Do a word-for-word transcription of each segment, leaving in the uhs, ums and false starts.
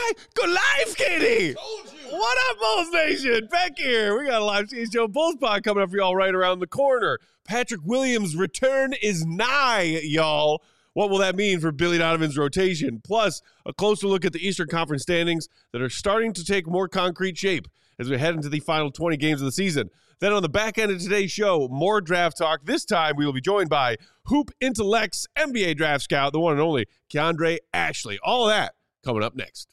guy? Go live, Katie. What up, Bulls Nation? Back here. We got a live C H G O Bulls pod coming up for y'all right around the corner. Patrick Williams' return is nigh, y'all. What will that mean for Billy Donovan's rotation? Plus, a closer look at the Eastern Conference standings that are starting to take more concrete shape as we head into the final twenty games of the season. Then on the back end of today's show, more draft talk. This time, we will be joined by Hoop Intellect's N B A draft scout, the one and only Keandre Ashley. All of that coming up next.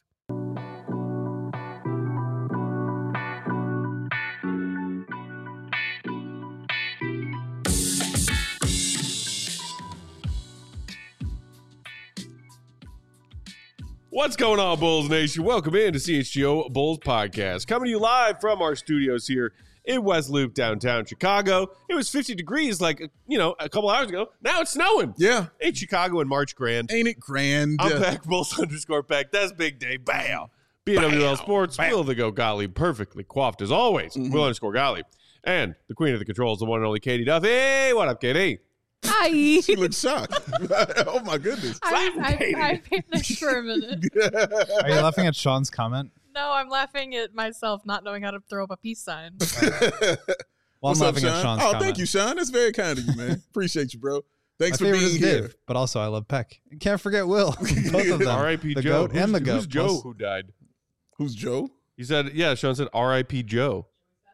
What's going on, Bulls Nation? Welcome in to C H G O Bulls Podcast. Coming to you live from our studios here in West Loop, downtown Chicago. It was fifty degrees like, you know, a couple hours ago. Now it's snowing. Yeah. Ain't Chicago in March grand. Ain't it grand? I'm back, Bulls underscore back. That's big day. Bam. B W L Sports, Bam. Will the Go Gottlieb, perfectly coiffed as always. Mm-hmm. Will underscore Gottlieb. And the queen of the controls, the one and only Katie Duffy. Hey, what up, Katie? Hi. She looks shocked. Oh, my goodness. I, I, I vanished for a minute. Are you laughing at Sean's comment? No, I'm laughing at myself not knowing how to throw up a peace sign. Well, I'm What's laughing up, at Sean? Sean's Oh, comment. thank you, Sean. That's very kind of you, man. Appreciate you, bro. Thanks My for favorite being is here. Dave, but also I love Peck. Can't forget Will. Both of them. R I P The Joe. goat and the Who's- goat. Who's Joe Plus- who died? Who's Joe? He said, yeah, Sean said R I P Joe.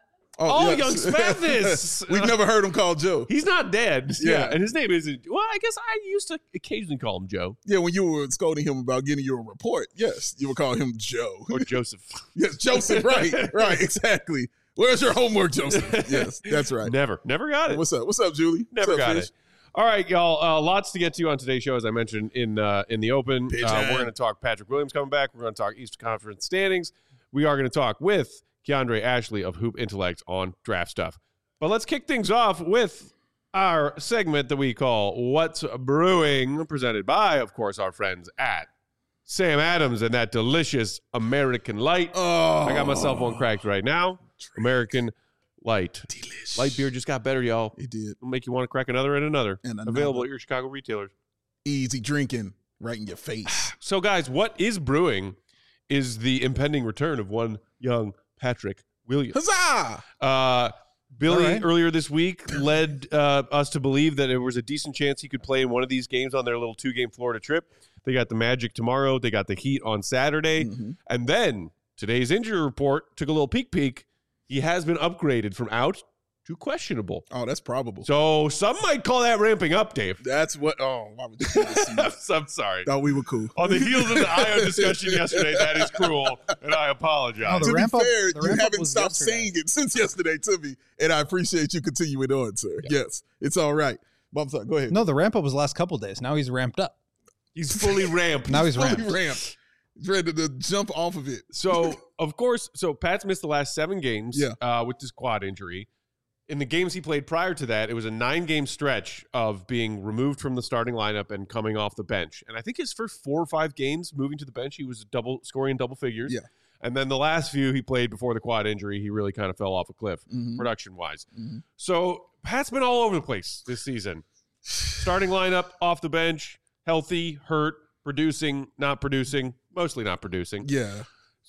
Oh, Oh, yes. Young Spathis. We've never heard him called Joe. He's not dead. Yeah. Yeah. And his name isn't, well, I guess I used to occasionally call him Joe Yeah, when you were scolding him about getting you a report, yes, you would call him Joe. or Joseph. Yes, Joseph, right, right, exactly. Where's your homework, Joseph? Yes, that's right. Never, never got it. What's up? What's up, Julie? Never What's up, got Fish? it. All right, y'all. Uh, lots to get to on today's show, as I mentioned in uh, in the open. Pitch Uh, in. we're going to talk Patrick Williams coming back. We're going to talk Eastern Conference standings. We are going to talk with Keandre Ashley of Hoop Intellect on draft stuff. But let's kick things off with our segment that we call What's Brewing, presented by, of course, our friends at Sam Adams and that delicious American Light. Oh, I got myself one cracked right now. American Light. Delish. Light beer just got better, y'all. It did. It'll make you want to crack another and another. And another. Available at your Chicago retailers. Easy drinking right in your face. So, guys, what is brewing is the impending return of one young Patrick Williams. Huzzah! Uh, Billy, All right. earlier this week, led uh, us to believe that there was a decent chance he could play in one of these games on their little two-game Florida trip. They got the Magic tomorrow. They got the Heat on Saturday. Mhm. And then today's injury report took a little peek peek. He has been upgraded from out to questionable. Oh, that's probable. So some might call that ramping up, Dave. That's what. Oh, why would you do this to me? I'm sorry. Thought we were cool. On the heels of the I O discussion yesterday, that is cruel, and I apologize. No, the to be ramp up- fair, the you ramp up haven't was stopped yesterday. saying it since yesterday to me, and I appreciate you continuing on, sir. Yes, it's all right. But I'm sorry. Go ahead. No, the ramp up was the last couple days. Now he's ramped up. He's fully ramped. Now he's Fully ramped. ramped. He's ready to jump off of it. So, of course, so Pat's missed the last seven games Yeah. uh, with this quad injury. In the games he played prior to that, it was a nine-game stretch of being removed from the starting lineup and coming off the bench. And I think his first four or five games moving to the bench, he was double scoring in double figures. Yeah. And then the last few he played before the quad injury, he really kind of fell off a cliff Mhm. production-wise. Mhm. So Pat's been all over the place this season. Starting lineup, off the bench, healthy, hurt, producing, not producing, mostly not producing. Yeah.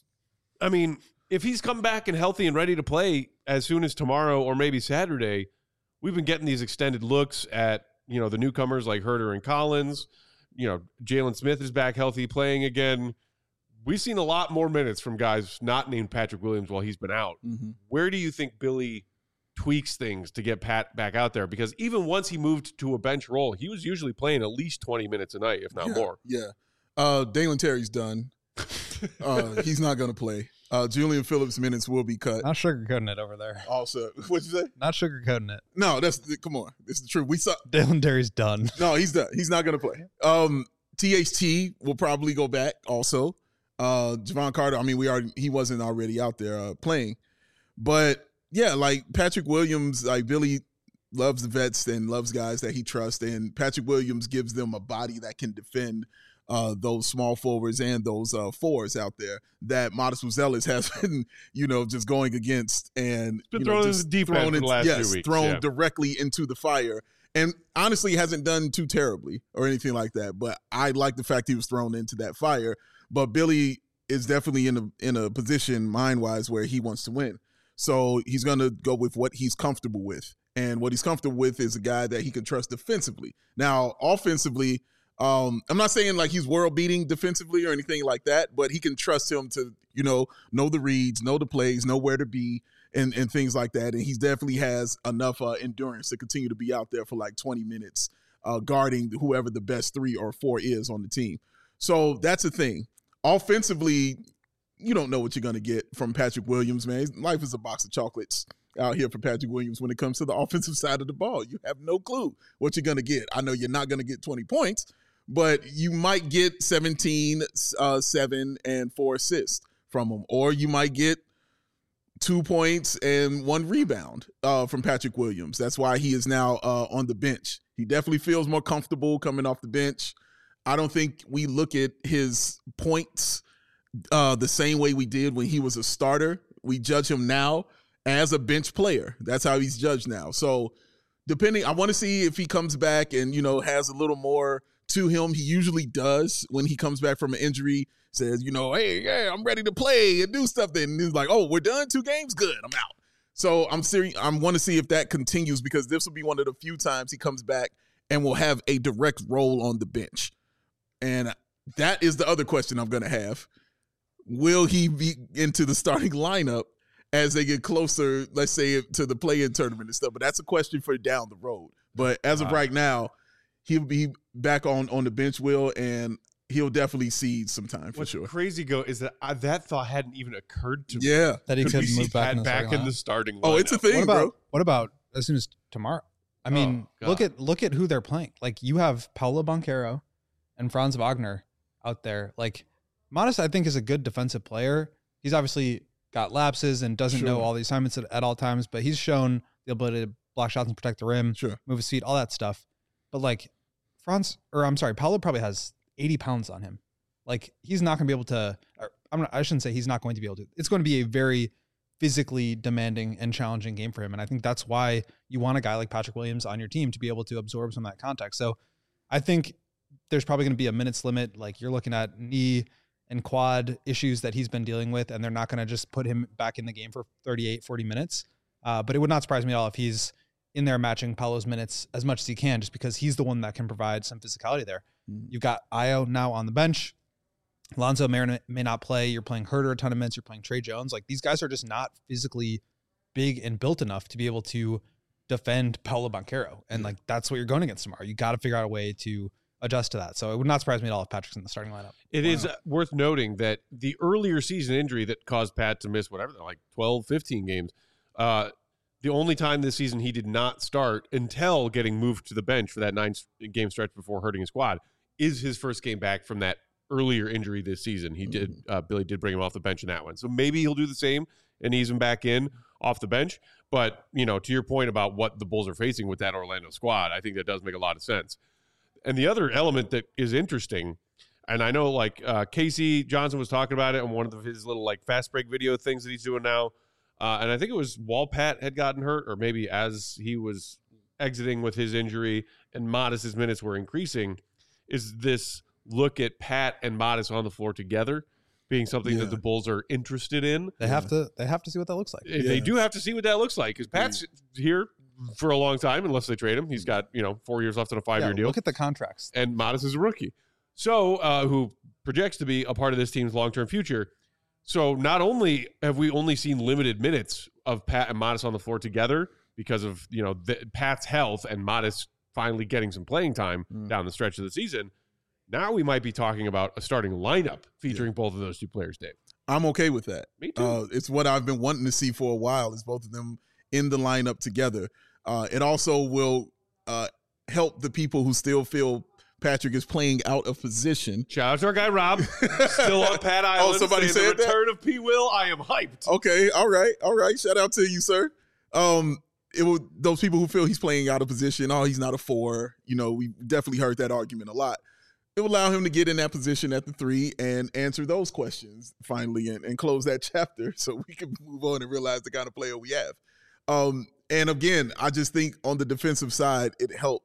I mean, if he's come back and healthy and ready to play as soon as tomorrow or maybe Saturday, we've been getting these extended looks at, you know, the newcomers like Herter and Collins. You know, Jalen Smith is back healthy playing again. We've seen a lot more minutes from guys not named Patrick Williams while he's been out. Mm-hmm. Where do you think Billy tweaks things to get Pat back out there? Because even once he moved to a bench role, he was usually playing at least twenty minutes a night, if not yeah. more. Yeah. Uh, Dalen Terry's done. Uh, he's not going to play. Uh, Julian Phillips' minutes will be cut. Not sugarcoating it over there. Also, what'd you say? Not sugarcoating it. No, that's come on. It's the truth. We saw. Dylan Terry's done. No, he's done. He's not going to play. Um, T H T will probably go back also. Uh, Javon Carter, I mean, we already he wasn't already out there uh, playing. But, yeah, like Patrick Williams, like Billy loves the vets and loves guys that he trusts. And Patrick Williams gives them a body that can defend uh, those small forwards and those uh, fours out there that Modest Muzelis has been, you know, just going against and Been you thrown know, in just the deep end thrown for the into- last yes, few weeks, thrown yeah. directly into the fire. And honestly, hasn't done too terribly or anything like that. But I like the fact he was thrown into that fire. But Billy is definitely in a in a position mind wise where he wants to win. So he's going to go with what he's comfortable with. And what he's comfortable with is a guy that he can trust defensively. Now, offensively, um, I'm not saying like he's world beating defensively or anything like that, but he can trust him to, you know, know the reads, know the plays, know where to be, and, and things like that. And he definitely has enough uh, endurance to continue to be out there for like twenty minutes uh, guarding whoever the best three or four is on the team. So that's the thing. Offensively, you don't know what you're going to get from Patrick Williams, man. Life is a box of chocolates out here for Patrick Williams when it comes to the offensive side of the ball. You have no clue what you're going to get. I know you're not going to get twenty points, but you might get seventeen, uh, seven, and four assists from him. Or you might get two points and one rebound uh, from Patrick Williams. That's why he is now uh, on the bench. He definitely feels more comfortable coming off the bench. I don't think we look at his points uh, the same way we did when he was a starter. We judge him now as a bench player. That's how he's judged now. So depending, I want to see if he comes back and, you know, has a little more to him. He usually does when he comes back from an injury, says, you know, hey, yeah, I'm ready to play and do stuff. Then he's like, oh, we're done, two games, good, I'm out. So I'm serious. I want to see if that continues, because this will be one of the few times he comes back and will have a direct role on the bench. And that is the other question I'm going to have. Will he be into the starting lineup as they get closer, let's say, to the play-in tournament and stuff? But that's a question for down the road. But as of right now, he'll be back on, on the bench, Will, and he'll definitely see some time for What's sure. crazy go is that I, that thought hadn't even occurred to me. Yeah. That he Could could we see move back, Pat in the, back starting in the lineup. starting lineup? Oh, it's a thing, What about bro. what about as soon as tomorrow? I mean, Oh, look God. at look at who they're playing. Like, you have Paulo Banchero and Franz Wagner out there. Like, Modest, I think, is a good defensive player. He's obviously got lapses and doesn't Sure. know all the assignments at, at all times, but he's shown the ability to block shots and protect the rim, Sure. move his feet, all that stuff. But like Franz, or I'm sorry, Paulo probably has eighty pounds on him. Like, he's not going to be able to, or I'm not, I shouldn't say he's not going to be able to. It's going to be a very physically demanding and challenging game for him. And I think that's why you want a guy like Patrick Williams on your team to be able to absorb some of that contact. So I think there's probably going to be a minutes limit. Like, you're looking at knee and quad issues that he's been dealing with, and they're not going to just put him back in the game for thirty-eight, forty minutes. Uh, but it would not surprise me at all if he's in there matching Paulo's minutes as much as he can, just because he's the one that can provide some physicality there. Mm-hmm. You've got Io now on the bench. Lonzo may, may not play. You're playing Herter a ton of minutes. You're playing Trey Jones. Like, these guys are just not physically big and built enough to be able to defend Paulo Banchero. And Yeah. like, that's what you're going against tomorrow. You got to figure out a way to adjust to that. So it would not surprise me at all if Patrick's in the starting lineup. It Wow. is uh, worth noting that the earlier season injury that caused Pat to miss whatever, like twelve, fifteen games, uh, the only time this season he did not start until getting moved to the bench for that nine game stretch before hurting his quad is his first game back from that earlier injury this season. He did, uh, Billy did bring him off the bench in that one. So maybe he'll do the same and ease him back in off the bench. But, you know, to your point about what the Bulls are facing with that Orlando squad, I think that does make a lot of sense. And the other element that is interesting, and I know like uh, Casey Johnson was talking about it on one of his little like fast break video things that he's doing now. Uh, and I think it was while Pat had gotten hurt, or maybe as he was exiting with his injury and Modest's minutes were increasing, is this look at Pat and Modest on the floor together being something Yeah. that the Bulls are interested in. They have to, they have to see what that looks like. They Yeah. do have to see what that looks like, because Pat's here for a long time, unless they trade him. He's got, you know, four years left on a five-year Yeah, deal. Look at the contracts. And Modest is a rookie. So, uh, who projects to be a part of this team's long-term future. So not only have we only seen limited minutes of Pat and Modest on the floor together because of, you know, the, Pat's health and Modest finally getting some playing time Mm. down the stretch of the season, now we might be talking about a starting lineup featuring both of those two players, Dave. I'm okay with that. Me too. Uh, it's what I've been wanting to see for a while, is both of them in the lineup together. Uh, it also will uh, help the people who still feel Patrick is playing out of position. Shout out to our guy, Rob. Still on Pat Island. Oh, somebody saying said the that? return of P. Will. I am hyped. Okay, all right, all right. Shout out to you, sir. Um, it will, those people who feel he's playing out of position. Oh, he's not a four. You know, we definitely heard that argument a lot. It will allow him to get in that position at the three and answer those questions finally, and, and close that chapter so we can move on and realize the kind of player we have. Um, and again, I just think on the defensive side, it helps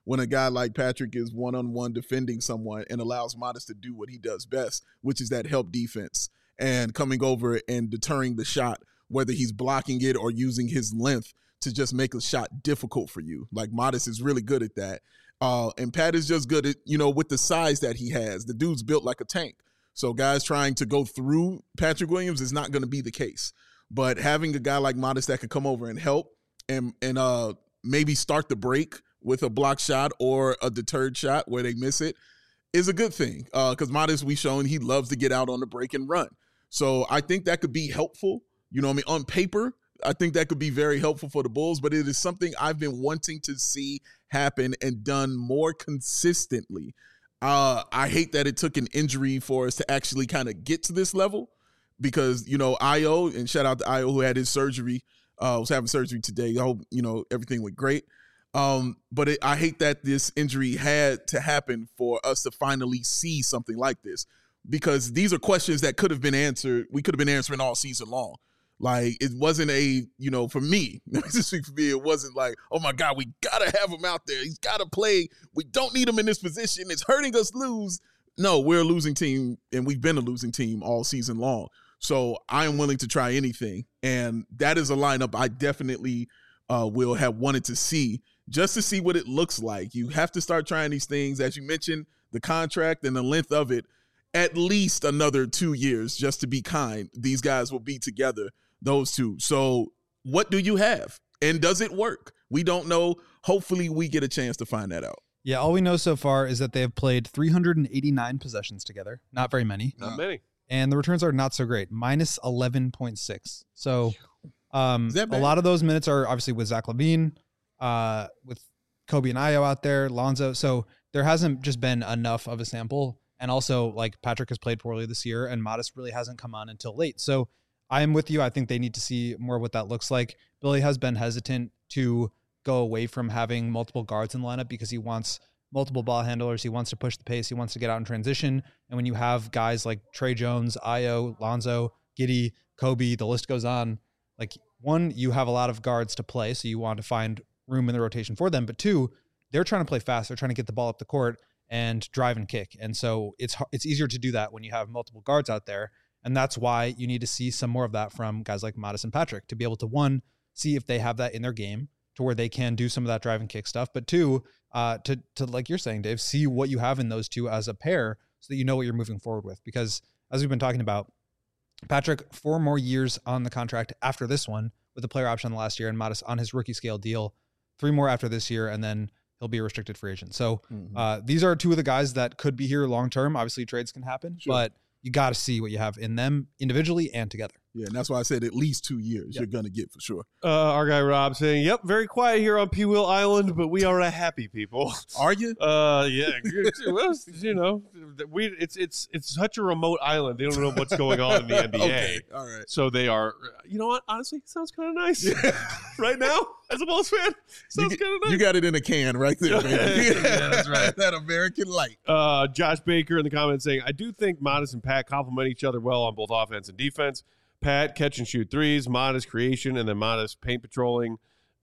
when a guy like Patrick is one-on-one defending someone and allows Modest to do what he does best, which is that help defense and coming over and deterring the shot, whether he's blocking it or using his length to just make a shot difficult for you. Like Modest is really good at that. Uh, and Pat is just good at, you know, with the size that he has. The dude's built like a tank. So guys trying to go through Patrick Williams is not going to be the case. But having a guy like Modest that could come over and help and and uh maybe start the break with a block shot or a deterred shot where they miss it is a good thing. Because uh, Modest, we've shown he loves to get out on the break and run. So I think that could be helpful. You know what I mean? On paper, I think that could be very helpful for the Bulls, but it is something I've been wanting to see happen and done more consistently. Uh, I hate that it took an injury for us to actually kind of get to this level because, you know, I O, and shout out to I O who had his surgery, uh, was having surgery today. I hope, you know, everything went great. Um, but it, I hate that this injury had to happen for us to finally see something like this, because these are questions that could have been answered. We could have been answering all season long. Like, it wasn't a, you know, for me, just for me, it wasn't like, oh my God, we got to have him out there. He's got to play. We don't need him in this position. It's hurting us lose. No, we're a losing team, and we've been a losing team all season long. So I am willing to try anything. And that is a lineup I definitely uh, will have wanted to see, just to see what it looks like. You have to start trying these things. As you mentioned, the contract and the length of it, at least another two years, just to be kind. These guys will be together, those two. So what do you have? And does it work? We don't know. Hopefully we get a chance to find that out. Yeah, all we know so far is that they have played three hundred eighty-nine possessions together. Not very many. Not many. And the returns are not so great. minus eleven point six. So um, that a bad? lot of those minutes are obviously with Zach LaVine, uh, with Kobe and Ayo out there, Lonzo. So there hasn't just been enough of a sample. And also, like, Patrick has played poorly this year, and Modest really hasn't come on until late. So I am with you. I think they need to see more what that looks like. Billy has been hesitant to go away from having multiple guards in the lineup because he wants multiple ball handlers. He wants to push the pace. He wants to get out in transition. And when you have guys like Trey Jones, Ayo, Lonzo, Giddey, Kobe, the list goes on. Like, one, you have a lot of guards to play, so you want to find room in the rotation for them. But two, they're trying to play fast. They're trying to get the ball up the court and drive and kick. And so it's it's easier to do that when you have multiple guards out there. And that's why you need to see some more of that from guys like Modest and Patrick to be able to, one, see if they have that in their game to where they can do some of that drive and kick stuff. But two, uh, to, to like you're saying, Dave, see what you have in those two as a pair so that you know what you're moving forward with. Because as we've been talking about, Patrick, four more years on the contract after this one with a player option last year, and Modest on his rookie scale deal, three more after this year, and then he'll be a restricted free agent. So Mm-hmm. uh, these are two of the guys that could be here long term. Obviously, trades can happen, Sure. but you got to see what you have in them individually and together. Yeah, and that's why I said at least two years Yep. you're going to get for sure. Uh, our guy Rob saying, "Yep, very quiet here on P Wheel Island, but we are a happy people." Are you? Uh, yeah, well, you know, we it's it's it's such a remote island. They don't know what's going on in the N B A. Okay, all right. So they are, you know what? Honestly, it sounds kind of nice right now as a Bulls fan. Sounds You, kind of nice. you got it in a can right there, baby. Yeah, that's right. That American light. Uh, Josh Baker in the comments saying, "I do think Modest and Pat complement each other well on both offense and defense. Pat catch and shoot threes, Modest creation, and then Modest paint patrolling,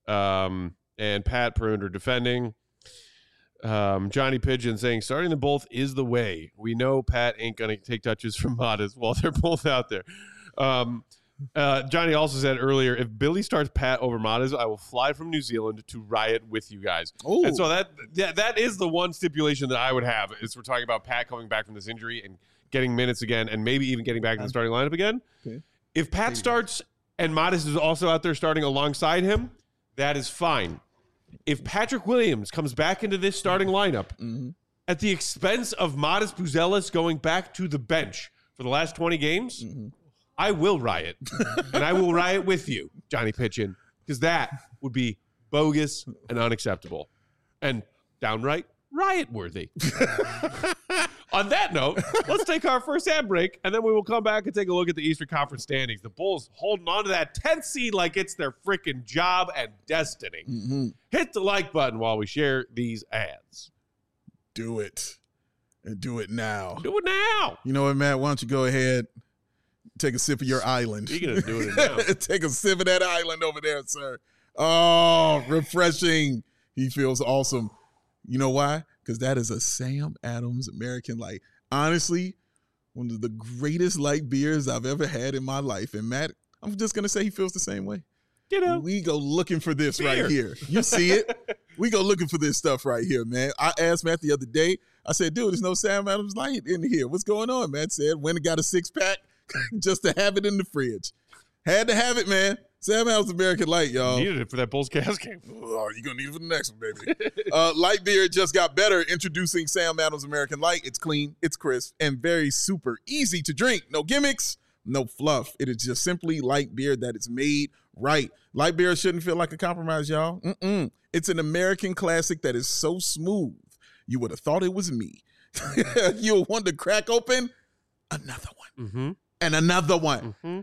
um, and Pat perimeter defending." Um, Johnny Pigeon saying, "Starting them both is the way. We know Pat ain't going to take touches from Modest while they're both out there." Um, uh, Johnny also said earlier, "If Billy starts Pat over Modest, I will fly from New Zealand to riot with you guys." Oh, And so that, that that is the one stipulation that I would have is we're talking about Pat coming back from this injury and getting minutes again and maybe even getting back to the starting lineup again. Okay. If Pat starts and Modest is also out there starting alongside him, that is fine. If Patrick Williams comes back into this starting lineup mm-hmm. at the expense of Modest Buzelis going back to the bench for the last twenty games, Mm-hmm. I will riot. And I will riot with you, Johnny Pitchin, because that would be bogus and unacceptable and downright riot worthy. On that note, let's take our first ad break, and then we will come back and take a look at the Eastern Conference standings. The Bulls holding on to that tenth seed like it's their freaking job and destiny. Mm-hmm. Hit the like button while we share these ads. Do it. And do it now. Do it now. You know what, Matt? Why don't you go ahead, take a sip of your island. Speaking of doing it now. Take a sip of that island over there, sir. Oh, refreshing. He feels awesome. You know why? Because that is a Sam Adams American Light. Honestly, one of the greatest light beers I've ever had in my life. And Matt, I'm just going to say he feels the same way. You know, we go looking for this beer. right here. You see it? We go looking for this stuff right here, man. I asked Matt the other day. I said, dude, there's no Sam Adams Light in here. What's going on? Matt said, went and got a six pack just to have it in the fridge. Had to have it, man. Sam Adams American Light, y'all. Needed it for that Bulls Cavs game. Oh, you're going to need it for the next one, baby. uh, light beer just got better. Introducing Sam Adams American Light. It's clean, it's crisp, and very super easy to drink. No gimmicks, no fluff. It is just simply light beer that is made right. Light beer shouldn't feel like a compromise, y'all. Mm-mm. It's an American classic that is so smooth, you would have thought it was me. You'll want to crack open another one. Mm-hmm. And another one. Mm-hmm.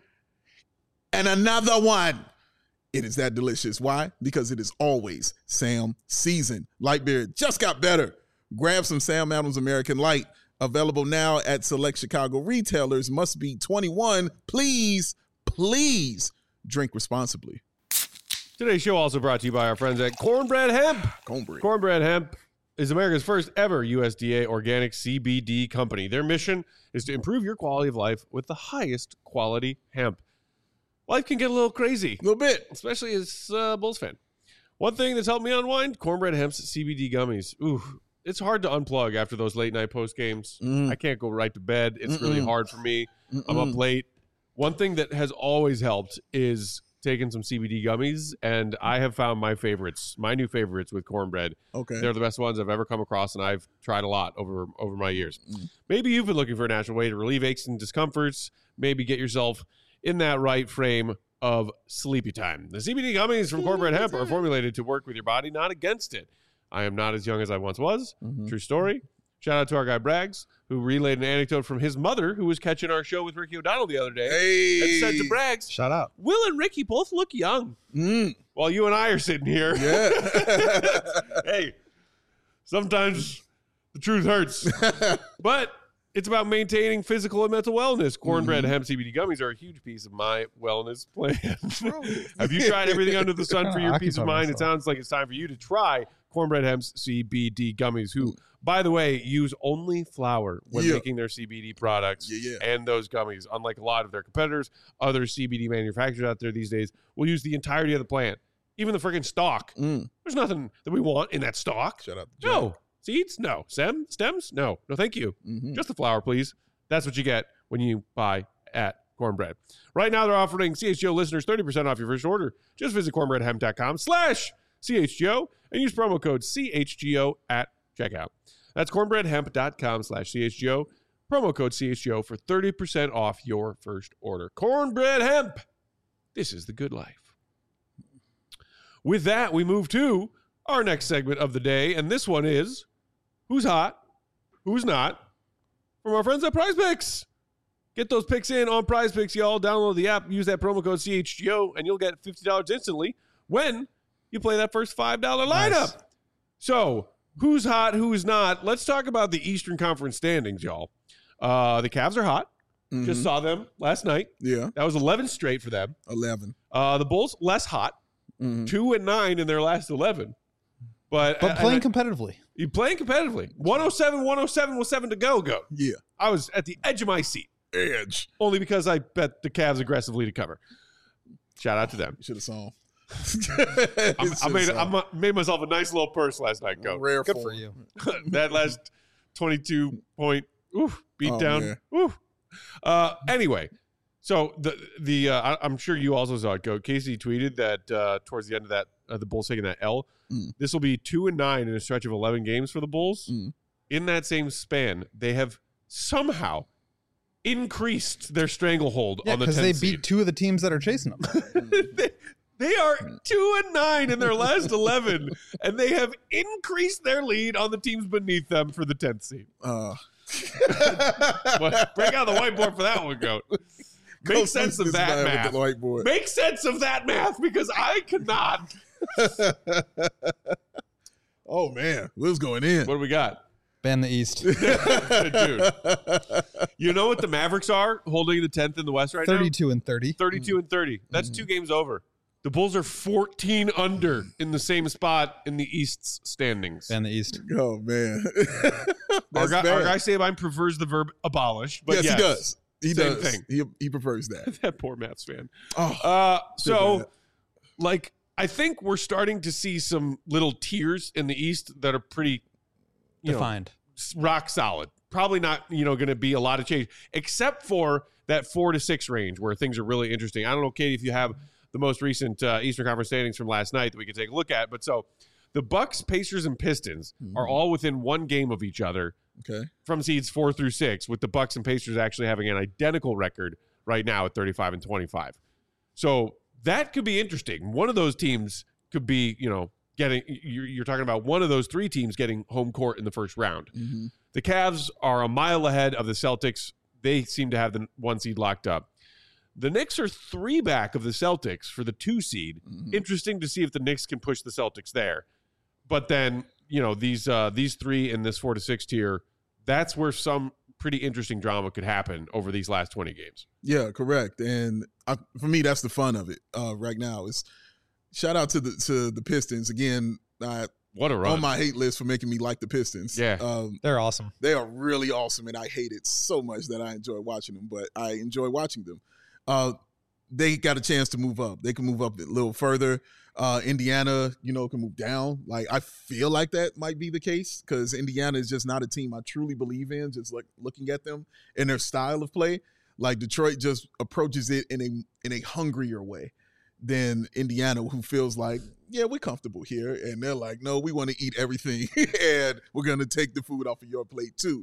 And another one. It is that delicious. Why? Because it is always Sam season. Light beer just got better. Grab some Sam Adams American Light. Available now at select Chicago retailers. Must be twenty-one. Please, please drink responsibly. Today's show also brought to you by our friends at Cornbread Hemp. Cornbread. Cornbread Hemp is America's first ever U S D A organic C B D company. Their mission is to improve your quality of life with the highest quality hemp. Life can get a little crazy. A little bit. Especially as a Bulls fan. One thing that's helped me unwind, Cornbread Hemp's C B D gummies. Ooh, it's hard to unplug after those late night post games. Mm. I can't go right to bed. It's Mm-mm. really hard for me. Mm-mm. I'm up late. One thing that has always helped is taking some C B D gummies, and I have found my favorites, my new favorites with cornbread. Okay. They're the best ones I've ever come across, and I've tried a lot over over my years. Mm. Maybe you've been looking for a natural way to relieve aches and discomforts. Maybe get yourself in that right frame of sleepy time. The C B D gummies from Cornbread Hemp are formulated to work with your body, not against it. I am not as young as I once was. Mm-hmm. True story. Shout out to our guy Braggs, who relayed an anecdote from his mother, who was catching our show with Ricky O'Donnell the other day. Hey. And said to Braggs, Shout out. Will and Ricky both look young. Mm. While you and I are sitting here. Yeah. Hey, sometimes the truth hurts. But it's about maintaining physical and mental wellness. Cornbread Mm-hmm. Hemp C B D gummies are a huge piece of my wellness plan. Have you tried everything under the sun for your peace of mind? It sounds like it's time for you to try Cornbread Hemp's C B D gummies, who, by the way, use only flour when Yeah. making their C B D products Yeah, yeah. and those gummies. Unlike a lot of their competitors, other C B D manufacturers out there these days will use the entirety of the plant, even the freaking stalk. Mm. There's nothing that we want in that stalk. Shout out to Jack. No. Seeds? No. Stem? Stems? No. No, thank you. Mm-hmm. Just the flour, please. That's what you get when you buy at Cornbread. Right now, they're offering C H G O listeners thirty percent off your first order. Just visit cornbreadhemp.com slash CHGO and use promo code C H G O at checkout. That's cornbreadhemp.com slash CHGO. Promo code C H G O for thirty percent off your first order. Cornbread Hemp. This is the good life. With that, we move to our next segment of the day, and this one is Who's Hot, Who's Not, from our friends at Prize Picks. Get those picks in on Prize Picks, y'all. Download the app, use that promo code C H G O, and you'll get fifty dollars instantly when you play that first five dollar lineup. Nice. So, who's hot, who's not? Let's talk about the Eastern Conference standings, y'all. Uh, the Cavs are hot. Mm-hmm. Just saw them last night. Yeah. That was eleven straight for them. eleven. Uh, the Bulls, less hot. Mm-hmm. Two and nine in their last eleven. But, But playing and, competitively. you playing competitively. one oh seven, one oh seven with seven to go, go. Yeah. I was at the edge of my seat. Edge. Only because I bet the Cavs aggressively to cover. Shout out to them. Should have saw. I'm, I made I made myself a nice little purse last night, go. Rare Good form. for you. That last twenty-two point oof, beat Oh, down. man. Oof. Uh, anyway, so the the uh, I, I'm sure you also saw it, go. Casey tweeted that uh, towards the end of that, uh, the Bulls taking that L. Mm. This will be two and nine in a stretch of eleven games for the Bulls. Mm. In that same span, they have somehow increased their stranglehold Yeah, on the because tenth they seed. beat two of the teams that are chasing them. they, they are two and nine in their last eleven, and they have increased their lead on the teams beneath them for the tenth seed. Uh, Well, break out the whiteboard for that one, Goat. Make go sense fix of this that man math. with the whiteboard. Make sense of that math, because I cannot. Oh man, Will's going in. What do we got? Ban the East. Dude. You know what the Mavericks are holding the tenth in the West right thirty-two and thirty. now? thirty-two and thirty. That's Mm-hmm. two games over. The Bulls are fourteen under in the same spot in the East's standings. And the East. Oh man, Our That's guy, bad. our guy Sabine prefers the verb abolish, but yes, yes, he does. He Same does. thing. He he prefers that. That poor Mets fan. Oh, Uh, so, bad. like, I think we're starting to see some little tiers in the East that are pretty, you know, Defined. rock solid. Probably not, you know, going to be a lot of change, except for that four to six range where things are really interesting. I don't know, Katie, if you have the most recent uh, Eastern Conference standings from last night that we could take a look at. But so the Bucks, Pacers, and Pistons Mhm. are all within one game of each other okay. from seeds four through six, with the Bucks and Pacers actually having an identical record right now at thirty-five and twenty-five. So that could be interesting. One of those teams could be, you know, getting, you're, you're talking about one of those three teams getting home court in the first round. Mm-hmm. The Cavs are a mile ahead of the Celtics. They seem to have the one seed locked up. The Knicks are three back of the Celtics for the two seed. Mhm. Interesting to see if the Knicks can push the Celtics there. But then, you know, these uh, these three in this four to six tier, that's where some pretty interesting drama could happen over these last twenty games. Yeah, correct. And I, for me, that's the fun of it uh, right now. Is shout out to the to the Pistons again. I, What a run. on my hate list for making me like the Pistons. Yeah. um, They're awesome. they are really awesome, and I hate it so much that I enjoy watching them. But I enjoy watching them. Uh, they got a chance to move up. They can move up a little further. Uh, Indiana, you know, can move down. Like I feel like that might be the case because Indiana is just not a team I truly believe in. Just like looking at them and their style of play, like Detroit just approaches it in a in a hungrier way than Indiana, who feels like, yeah, we're comfortable here, and they're like, no, we want to eat everything, and we're gonna take the food off of your plate too.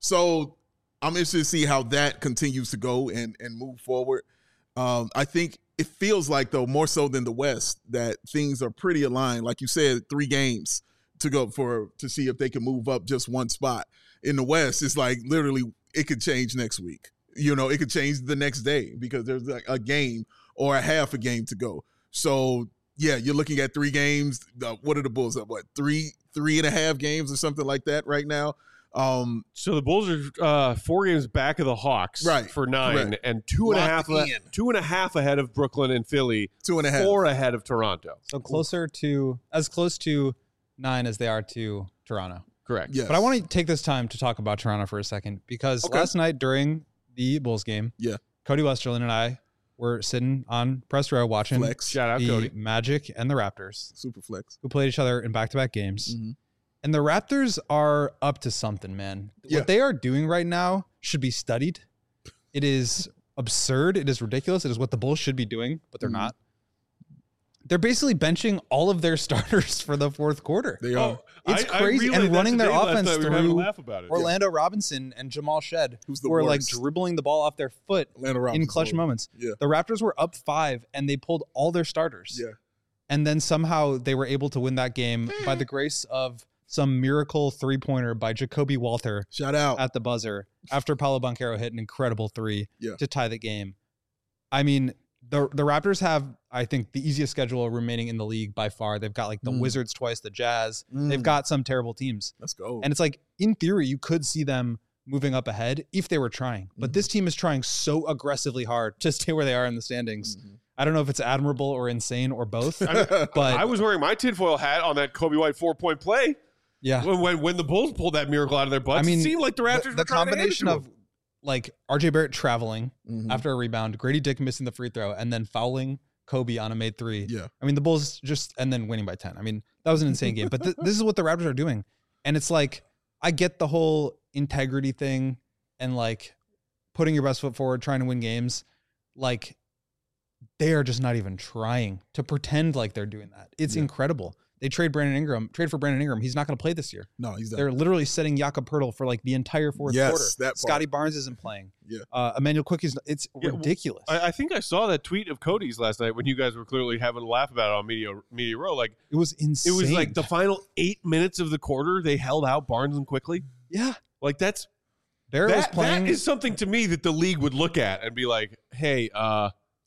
So I'm interested to see how that continues to go and and move forward. Um, I think it feels like, though, more so than the West, that things are pretty aligned. Like you said, three games to go for to see if they can move up just one spot. In the West, it's like literally it could change next week. You know, it could change the next day because there's like a game or a half a game to go. So yeah, you're looking at three games. Uh, what are the Bulls up? What three, three and a half games or something like that right now? Um, So the Bulls are uh, four games back of the Hawks Right, for nine, correct. and two and a Locked half a- in. two and a half ahead of Brooklyn and Philly, two and a half. four ahead of Toronto. So closer to, as close to nine as they are to Toronto. Correct. Yes. But I want to take this time to talk about Toronto for a second because Okay. last night during the Bulls game, Yeah. Cody Westerlin and I were sitting on press row watching Flex, Shout out the Cody. Magic and the Raptors, super flex. who played each other in back-to-back games. Mhm. And the Raptors are up to something, man. Yeah. What they are doing right now should be studied. It is absurd. It is ridiculous. It is what the Bulls should be doing, but they're Mhm. not. They're basically benching all of their starters for the fourth quarter. They are. It's I- I crazy. relayed And that running their today last offense night. We were having a through laugh about it. Orlando Robinson and Jamal Shed, Who's the who are like worst? dribbling the ball off their foot Atlanta in Robinson. clutch moments. Yeah. The Raptors were up five and they pulled all their starters. Yeah. And then somehow they were able to win that game by the grace of some miracle three-pointer by Jacoby Walter Shout out. at the buzzer after Paolo Banchero hit an incredible three Yeah. to tie the game. I mean, the the Raptors have, I think, the easiest schedule remaining in the league by far. They've got like the Mm. Wizards twice, the Jazz. Mm. They've got some terrible teams. Let's go. And it's like, in theory, you could see them moving up ahead if they were trying. But Mhm. this team is trying so aggressively hard to stay where they are in the standings. Mhm. I don't know if it's admirable or insane or both. I, But I was wearing my tinfoil hat on that Kobe White four point play yeah, when, when when the Bulls pulled that miracle out of their butts. I mean, it seemed like the Raptors the, were the trying to hand it combination to of them. like R J Barrett traveling Mhm. after a rebound, Grady Dick missing the free throw, and then fouling Kobe on a made three. Yeah. I mean, the Bulls just, and then winning by ten. I mean, that was an insane game. But th- this is what the Raptors are doing. And it's like, I get the whole integrity thing and like putting your best foot forward, trying to win games. Like, they are just not even trying to pretend like they're doing that. It's Yeah. incredible. They trade Brandon Ingram, trade for Brandon Ingram. He's not going to play this year. No, he's They're done. literally setting Jakob Pertl for like the entire fourth Yes, quarter. that part. Scotty Barnes isn't playing. Yeah. Uh, Emmanuel Quick is, it's Yeah, well, ridiculous. I, I think I saw that tweet of Cody's last night when you guys were clearly having a laugh about it on Media Media Row. Like it was insane. it was like the final eight minutes of the quarter, they held out Barnes and Quickly. yeah. Like that's Barrett was that, playing. that is something to me that the league would look at and be like, hey, uh,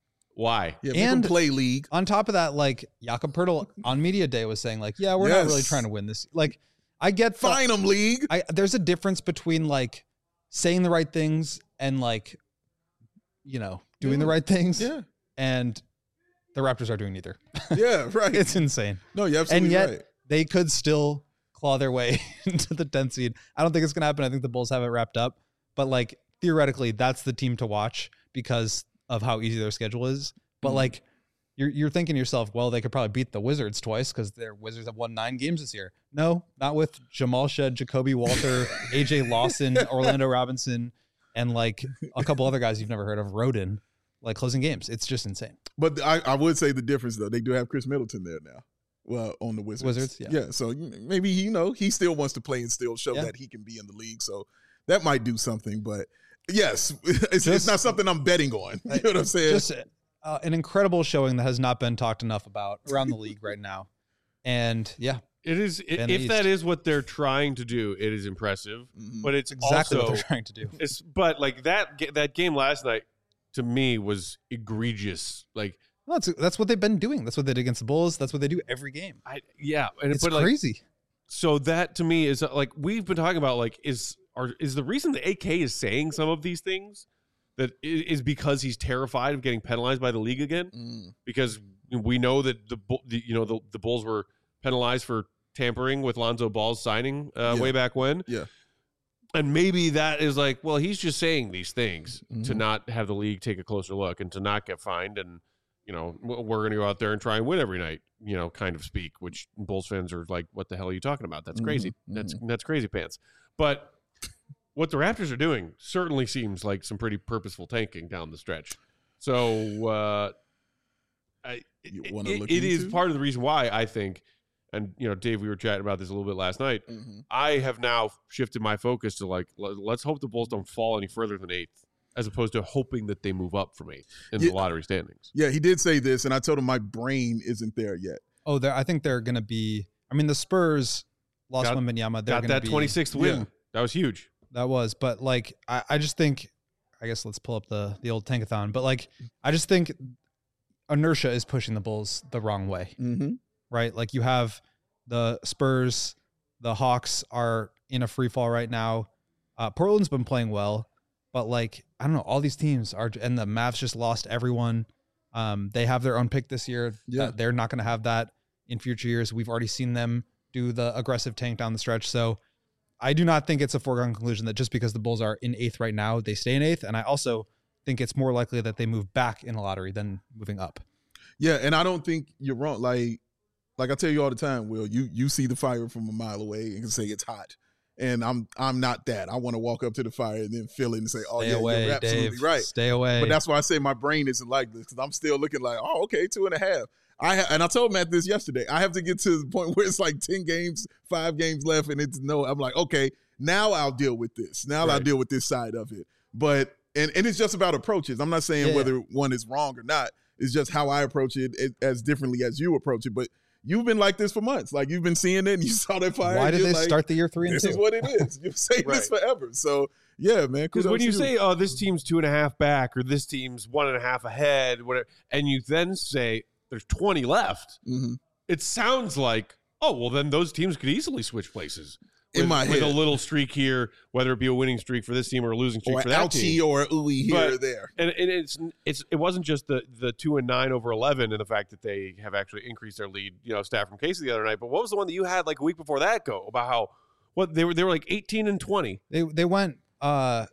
why? Yeah, make him and- play league. On top of that, like Jakob Pertl on media day was saying, like, yeah, we're not really Yes. trying to win this. Like, I get the, Fine him league. I there's a difference between like saying the right things and like, you know, doing the Yeah. right things Yeah. and the Raptors are doing neither. Yeah, right. It's insane. No, you're absolutely And yet right. they could still claw their way into the tenth seed. I don't think it's going to happen. I think the Bulls have it wrapped up. But like theoretically, that's the team to watch because of how easy their schedule is. But Mhm. like you're you're thinking to yourself, well, they could probably beat the Wizards twice because their Wizards have won nine games this year. No, not with Jamal Shed, Jacoby Walter, A J Lawson, Orlando Robinson, and like a couple other guys you've never heard of, Rodin, like closing games. It's just insane. But I, I would say the difference though, they do have Chris Middleton there now. Well, on the Wizards. Wizards, yeah. Yeah, so maybe, you know, he still wants to play and still show Yeah. that he can be in the league. So that might do something. But yes, it's, it's Just- not something I'm betting on. You know what I'm saying? Just uh, an incredible showing that has not been talked enough about around the league right now. And yeah, It is i- Van if East. that is what they're trying to do, it is impressive. Mhm. But it's exactly also what they're trying to do. it's but like that ga- that game last night to me was egregious. Like Well, that's that's what they've been doing. That's what they did against the Bulls. That's what they do every game. I yeah, and It's but like crazy. so that to me is uh, like we've been talking about like is are is the reason the A K is saying some of these things that i- is because he's terrified of getting penalized by the league again, Mm. because we know that the, Bull- the you know the, the Bulls were penalized for tampering with Lonzo Ball's signing uh, Yeah. way back when. Yeah. And maybe that is like, well, he's just saying these things to Mhm. not have the league take a closer look and to not get fined. And, you know, w- we're going to go out there and try and win every night, you know, kind of speak, which Bulls fans are like, what the hell are you talking about? That's crazy. Mhm, That's, that's crazy pants. But what the Raptors are doing certainly seems like some pretty purposeful tanking down the stretch. So, uh, I, You it, wanna it- look it is into? part of the reason why I think, and, you know, Dave, we were chatting about this a little bit last night. Mhm. I have now shifted my focus to like, l- let's hope the Bulls don't fall any further than eighth, as opposed to hoping that they move up from eighth in Yeah. the lottery standings. Yeah, he did say this, and I told him my brain isn't there yet. Oh, they're, I think they're going to be. I mean, the Spurs lost Got- Wembanyama. They're Got going to that be twenty-sixth win. Yeah. That was huge. That was, but like, I, I just think, I guess let's pull up the the old tankathon. But like, I just think inertia is pushing the Bulls the wrong way, Mm-hmm. right? Like you have the Spurs, the Hawks are in a free fall right now. Uh, Portland's been playing well, but like, I don't know, all these teams are, and the Mavs just lost everyone. Um, they have their own pick this year. Yeah. That they're not going to have that in future years. We've already seen them do the aggressive tank down the stretch. So I do not think it's a foregone conclusion that just because the Bulls are in eighth right now, they stay in eighth. And I also think it's more likely that they move back in a lottery than moving up. Yeah, and I don't think you're wrong. Like, like I tell you all the time, Will, you you see the fire from a mile away and can say it's hot. And I'm I'm not that. I want to walk up to the fire and then feel it and say, oh, Stay yeah, away, you're absolutely Dave. right. Stay away. But that's why I say my brain isn't like this, because I'm still looking like, oh, okay, two and a half. I ha- and I told Matt this yesterday. I have to get to the point where it's like ten games, five games left, and it's no. I'm like, okay, now I'll deal with this. Now I'll Right. deal with this side of it. But and and it's just about approaches. I'm not saying Yeah, yeah. whether one is wrong or not. It's just how I approach it, it as differently as you approach it. But you've been like this for months. Like you've been seeing it, and you saw that fire. Why and did you're they like, start the year three and This two? is what it is. You've saying this Right. forever. So yeah, man. Because kudos when you to say, oh, this team's two and a half back or this team's one and a half ahead, whatever, and you then say there's twenty left, Mhm. it sounds like, oh, well, then those teams could easily switch places. In With, my with a head. little streak here, whether it be a winning streak for this team or a losing streak or for that ouchie team. or ooey here But- or there. And, and it's it's it wasn't just the the two and nine over eleven and the fact that they have actually increased their lead, you know, stat from Casey the other night. But what was the one that you had like a week before that go about how what they were they were like eighteen and twenty. They they went. Uh,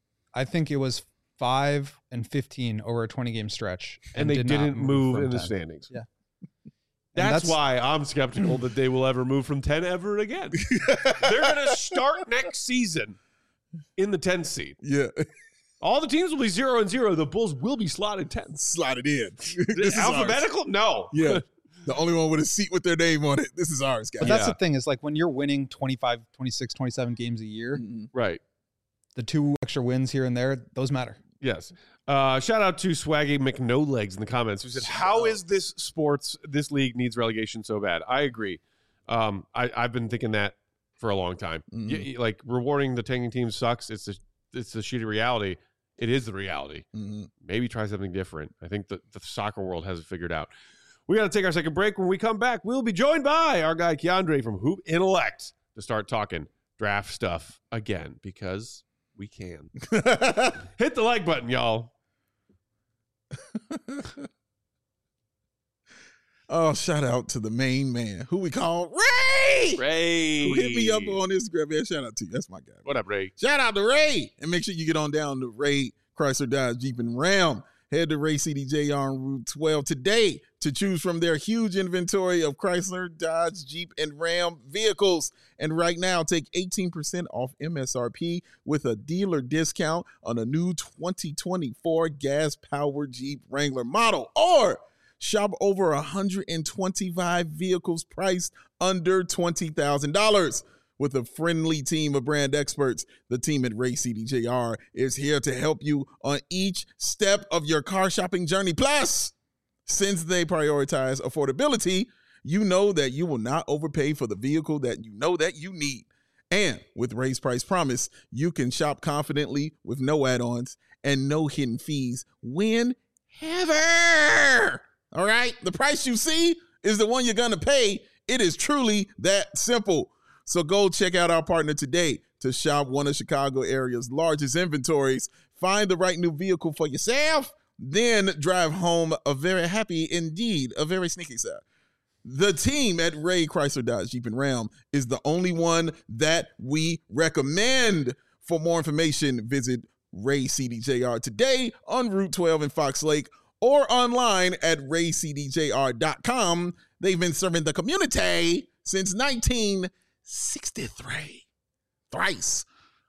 I think it was five and fifteen over a twenty game stretch, And, they did not didn't move from in the ten. standings. Yeah. That's, that's- why I'm skeptical that they will ever move from ten ever again. They're going to start next season in the tenth seed. Yeah. All the teams will be zero and zero. The Bulls will be slotted tenth. Slide it in. This is ours. Alphabetical? No. Yeah. The only one with a seat with their name on it. This is ours, guys. But that's Yeah. the thing is like when you're winning twenty-five, twenty-six, twenty-seven games a year, Mhm. Right. the two extra wins here and there, those matter. Yes. Uh, shout out to Swaggy McNolegs in the comments who said, how is this sports, this league needs relegation so bad? I agree. Um, I, I've been thinking that for a long time. Mhm. Y- y- like rewarding the tanking team sucks. It's the, it's the shitty reality. It is the reality. Mhm. Maybe try something different. I think the, the soccer world has it figured out. We got to take our second break. When we come back, we'll be joined by our guy Keandre from Hoop Intellect to start talking draft stuff again because we can. Hit the like button, y'all. Oh, shout out to the main man who we call Ray. Ray. Who hit me up on Instagram, man. Shout out to you. That's my guy. What up, Ray? Shout out to Ray. And make sure you get on down to Ray Chrysler Dodge Jeep and Ram. Head to Ray C D J on Route twelve today to choose from their huge inventory of Chrysler, Dodge, Jeep, and Ram vehicles. And right now, take eighteen percent off M S R P with a dealer discount on a new twenty twenty-four gas-powered Jeep Wrangler model. Or shop over one hundred twenty-five vehicles priced under twenty thousand dollars. With a friendly team of brand experts, the team at Ray C D J R is here to help you on each step of your car shopping journey. Plus, since they prioritize affordability, you know that you will not overpay for the vehicle that you know that you need. And with Ray's Price Promise, you can shop confidently with no add-ons and no hidden fees whenever. All right? The price you see is the one you're going to pay. It is truly that simple. So go check out our partner today to shop one of Chicago area's largest inventories. Find the right new vehicle for yourself, then drive home a very happy, indeed, a very sneaky side. The team at Ray Chrysler Dodge Jeep and Ram is the only one that we recommend. For more information, visit Ray C D J R today on Route twelve in Fox Lake or online at ray c d j r dot com. They've been serving the community since nineteen sixty-three. Thrice.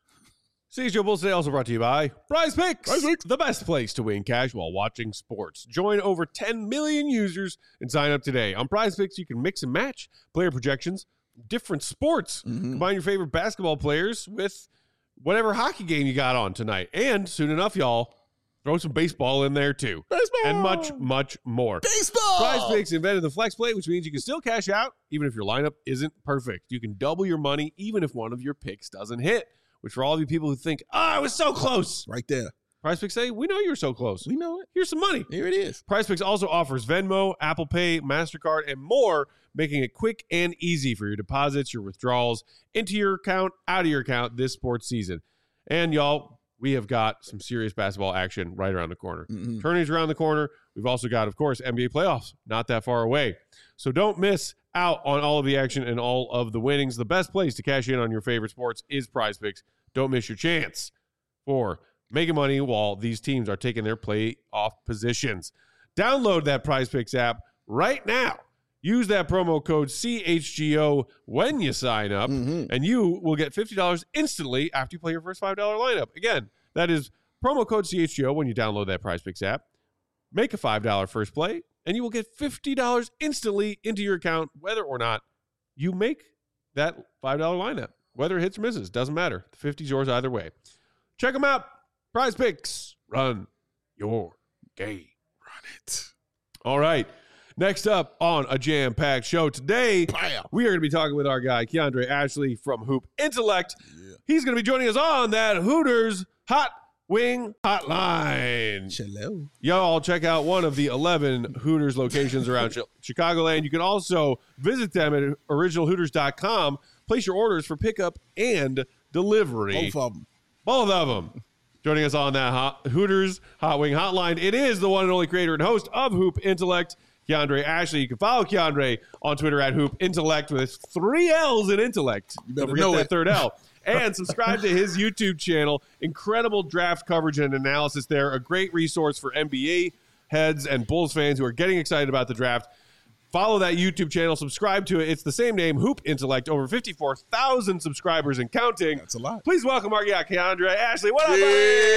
C H G O Bulls today also brought to you by Prize Picks, Prize Picks, the best place to win cash while watching sports. Join over ten million users and sign up today. On Prize Picks, you can mix and match player projections, different sports. Mm-hmm. Combine your favorite basketball players with whatever hockey game you got on tonight. And soon enough, y'all, throw some baseball in there too. Baseball. And much, much more. Baseball. Prize Picks invented the flex play, which means you can still cash out even if your lineup isn't perfect. You can double your money even if one of your picks doesn't hit, which for all of you people who think, oh, I was so close. Right there. Prize Picks say, we know you're so close. We know it. Here's some money. Here it is. Prize Picks also offers Venmo, Apple Pay, MasterCard, and more, making it quick and easy for your deposits, your withdrawals, into your account, out of your account this sports season. And y'all, we have got some serious basketball action right around the corner. Mm-hmm. Tourneys around the corner. We've also got, of course, N B A playoffs not that far away. So don't miss out on all of the action and all of the winnings. The best place to cash in on your favorite sports is Prize Picks. Don't miss your chance for making money while these teams are taking their playoff positions. Download that Prize Picks app right now. Use that promo code C H G O when you sign up, Mm-hmm. and you will get fifty dollars instantly after you play your first five dollar lineup. Again, that is promo code C H G O when you download that Prize Picks app. Make a five dollar first play, and you will get fifty dollars instantly into your account, whether or not you make that five dollar lineup. Whether it hits or misses, doesn't matter. The fifty is yours either way. Check them out. Prize Picks. Run your game. Run it. All right. Next up on a jam-packed show today, Bam. we are going to be talking with our guy, Keandre Ashley from Hoop Intellect. Yeah. He's going to be joining us on that Hooters Hot Wing Hotline. Hello. Y'all check out one of the eleven Hooters locations around Ch- Chicagoland. You can also visit them at original hooters dot com. Place your orders for pickup and delivery. Both of them. Both of them. Joining us on that hot, Hooters Hot Wing Hotline, it is the one and only creator and host of Hoop Intellect, Keandre Ashley. You can follow Keandre on Twitter at Hoop Intellect with three L's in intellect. You better Don't forget know that it. third L. And subscribe to his YouTube channel. Incredible draft coverage and analysis there. A great resource for N B A heads and Bulls fans who are getting excited about the draft. Follow that YouTube channel. Subscribe to it. It's the same name, Hoop Intellect. Over fifty-four thousand subscribers and counting. That's a lot. Please welcome our guy, Keandre Ashley. What up,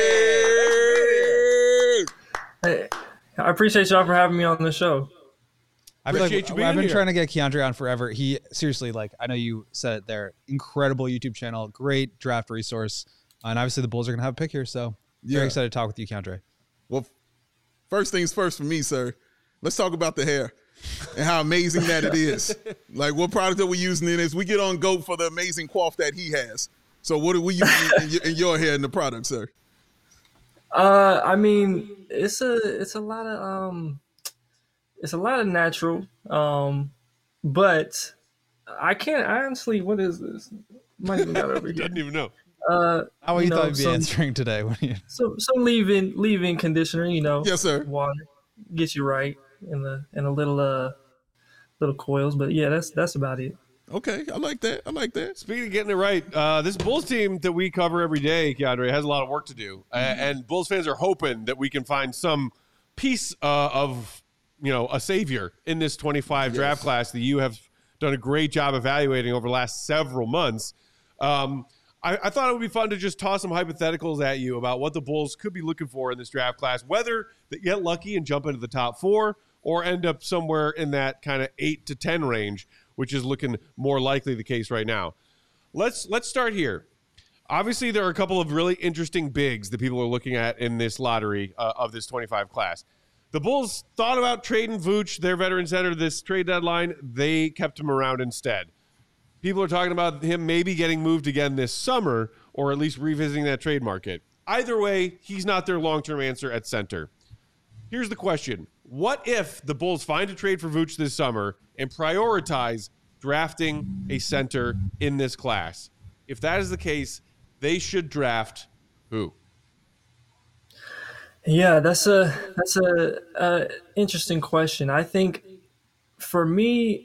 buddy? Hey, I appreciate y'all for having me on the show. I feel Appreciate like you being I've been here. trying to get Keandre on forever. He seriously, like, I know you said it there. Incredible YouTube channel, great draft resource, and obviously the Bulls are gonna have a pick here. So very Yeah. excited to talk with you, Keandre. Well, first things first for me, sir. Let's talk about the hair and how amazing that it is. Like, what product are we using in this? We get on GOAT for the amazing coif that he has. So what are we using in, your, in your hair and the product, sir? Uh, I mean, it's a it's a lot of um, it's a lot of natural. Um, but I can't I honestly. What is this? Might even got over here. Didn't even know. Uh, How you you know, thought you'd be some, answering today? When you, some some leave-in leave-in conditioner. You know, Yes, sir. water get you right, and the and a little uh little coils. But yeah, that's that's about it. Okay, I like that. I like that. Speaking of getting it right, uh, this Bulls team that we cover every day, Keandre, has a lot of work to do. Uh, and Bulls fans are hoping that we can find some piece uh, of, you know, a savior in this twenty-five yes. draft class that you have done a great job evaluating over the last several months. Um, I, I thought it would be fun to just toss some hypotheticals at you about what the Bulls could be looking for in this draft class, whether they get lucky and jump into the top four or end up somewhere in that kind of eight to ten range, which is looking more likely the case right now. Let's let's start here. Obviously, there are a couple of really interesting bigs that people are looking at in this lottery uh, of this twenty-five class. The Bulls thought about trading Vooch, their veteran center, this trade deadline. They kept him around instead. People are talking about him maybe getting moved again this summer, or at least revisiting that trade market. Either way, he's not their long-term answer at center. Here's the question. What if the Bulls find a trade for Vooch this summer and prioritize drafting a center in this class? If that is the case, they should draft who? Yeah, that's a that's a, a interesting question. I think for me,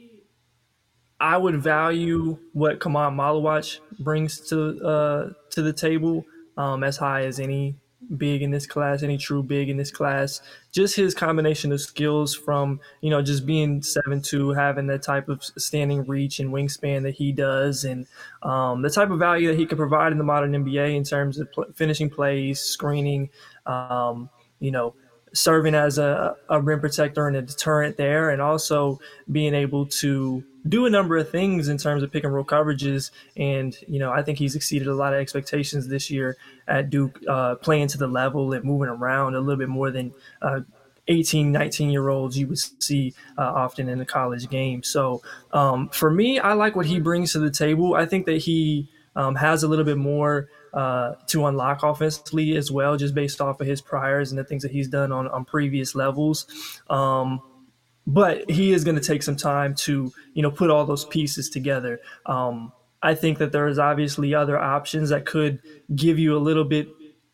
I would value what Kamon Malawach brings to uh, to the table um, as high as any big in this class, any true big in this class. Just his combination of skills from, you know, just being seven two, having the type of standing reach and wingspan that he does, and um, the type of value that he can provide in the modern N B A in terms of pl- finishing plays, screening, um, you know, serving as a, a rim protector and a deterrent there, and also being able to do a number of things in terms of pick and roll coverages. And, you know, I think he's exceeded a lot of expectations this year at Duke, uh, playing to the level and moving around a little bit more than uh, eighteen, nineteen year olds you would see uh, often in the college game. So um, for me, I like what he brings to the table. I think that he um, has a little bit more uh, to unlock offensively as well, just based off of his priors and the things that he's done on, on previous levels. Um, But he is going to take some time to, you know, put all those pieces together. Um, I think that there is obviously other options that could give you a little bit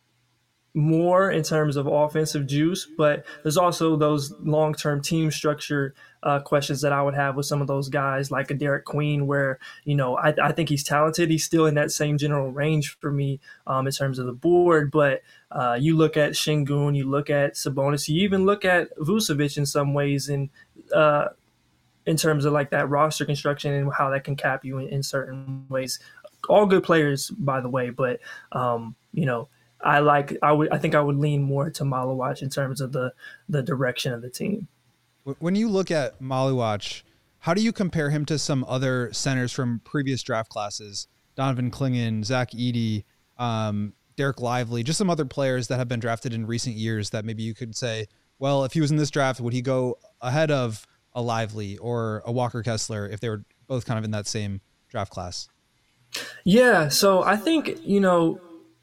more in terms of offensive juice, but there's also those long-term team structure uh, questions that I would have with some of those guys like a Derek Queen, where, you know, I, I think he's talented. He's still in that same general range for me um, in terms of the board, but uh, you look at Şengün, you look at Sabonis, you even look at Vucevic in some ways, and uh, in terms of like that roster construction and how that can cap you in, in certain ways. All good players, by the way, but um, you know, I like I would I think I would lean more to Malawach in terms of the the direction of the team. When you look at Malawach, how do you compare him to some other centers from previous draft classes? Donovan Clingan, Zach Edey, um, Derek Lively, just some other players that have been drafted in recent years that maybe you could say, well, if he was in this draft, would he go ahead of a Lively or a Walker Kessler if they were both kind of in that same draft class? Yeah, so I think, you know,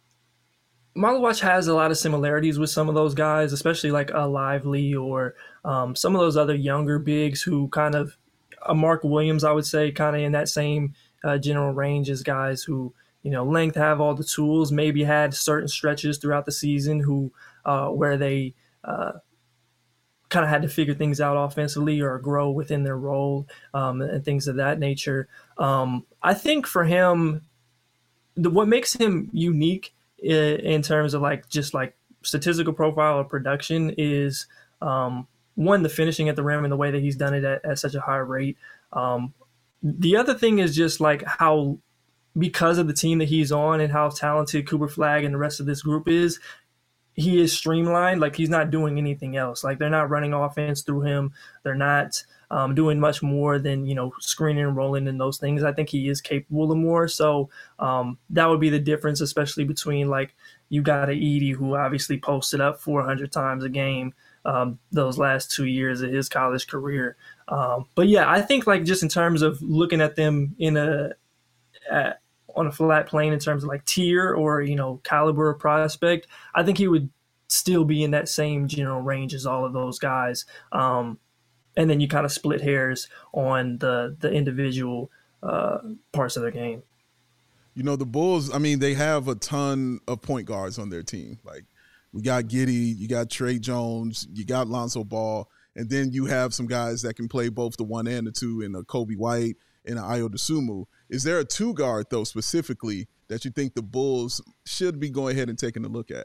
Malawach has a lot of similarities with some of those guys, especially like a Lively or um, some of those other younger bigs who kind of, a Mark Williams, I would say, kind of in that same uh, general range as guys who, you know, length, have all the tools, maybe had certain stretches throughout the season who uh, where they uh, kind of had to figure things out offensively or grow within their role um, and things of that nature. Um, I think for him, the, what makes him unique in terms of like just like statistical profile or production is um, one, the finishing at the rim and the way that he's done it at, at such a high rate. Um, the other thing is just like how, because of the team that he's on and how talented Cooper Flagg and the rest of this group is, he is streamlined. Like he's not doing anything else. Like they're not running offense through him. They're not um, doing much more than, you know, screening and rolling and those things. I think he is capable of more. So um, that would be the difference, especially between like you got a Edey who obviously posted up four hundred times a game um, those last two years of his college career. Um, but yeah, I think like just in terms of looking at them in a at, on a flat plane in terms of like tier or, you know, caliber of prospect, I think he would still be in that same general range as all of those guys. Um, and then you kind of split hairs on the, the individual uh, parts of their game. You know, the Bulls, I mean, they have a ton of point guards on their team. Like we got Giddey, you got Trey Jones, you got Lonzo Ball, And then you have some guys that can play both the one and the two in a Kobe White and an Ayo Dosunmu. Is there a two guard, though, specifically that you think the Bulls should be going ahead and taking a look at?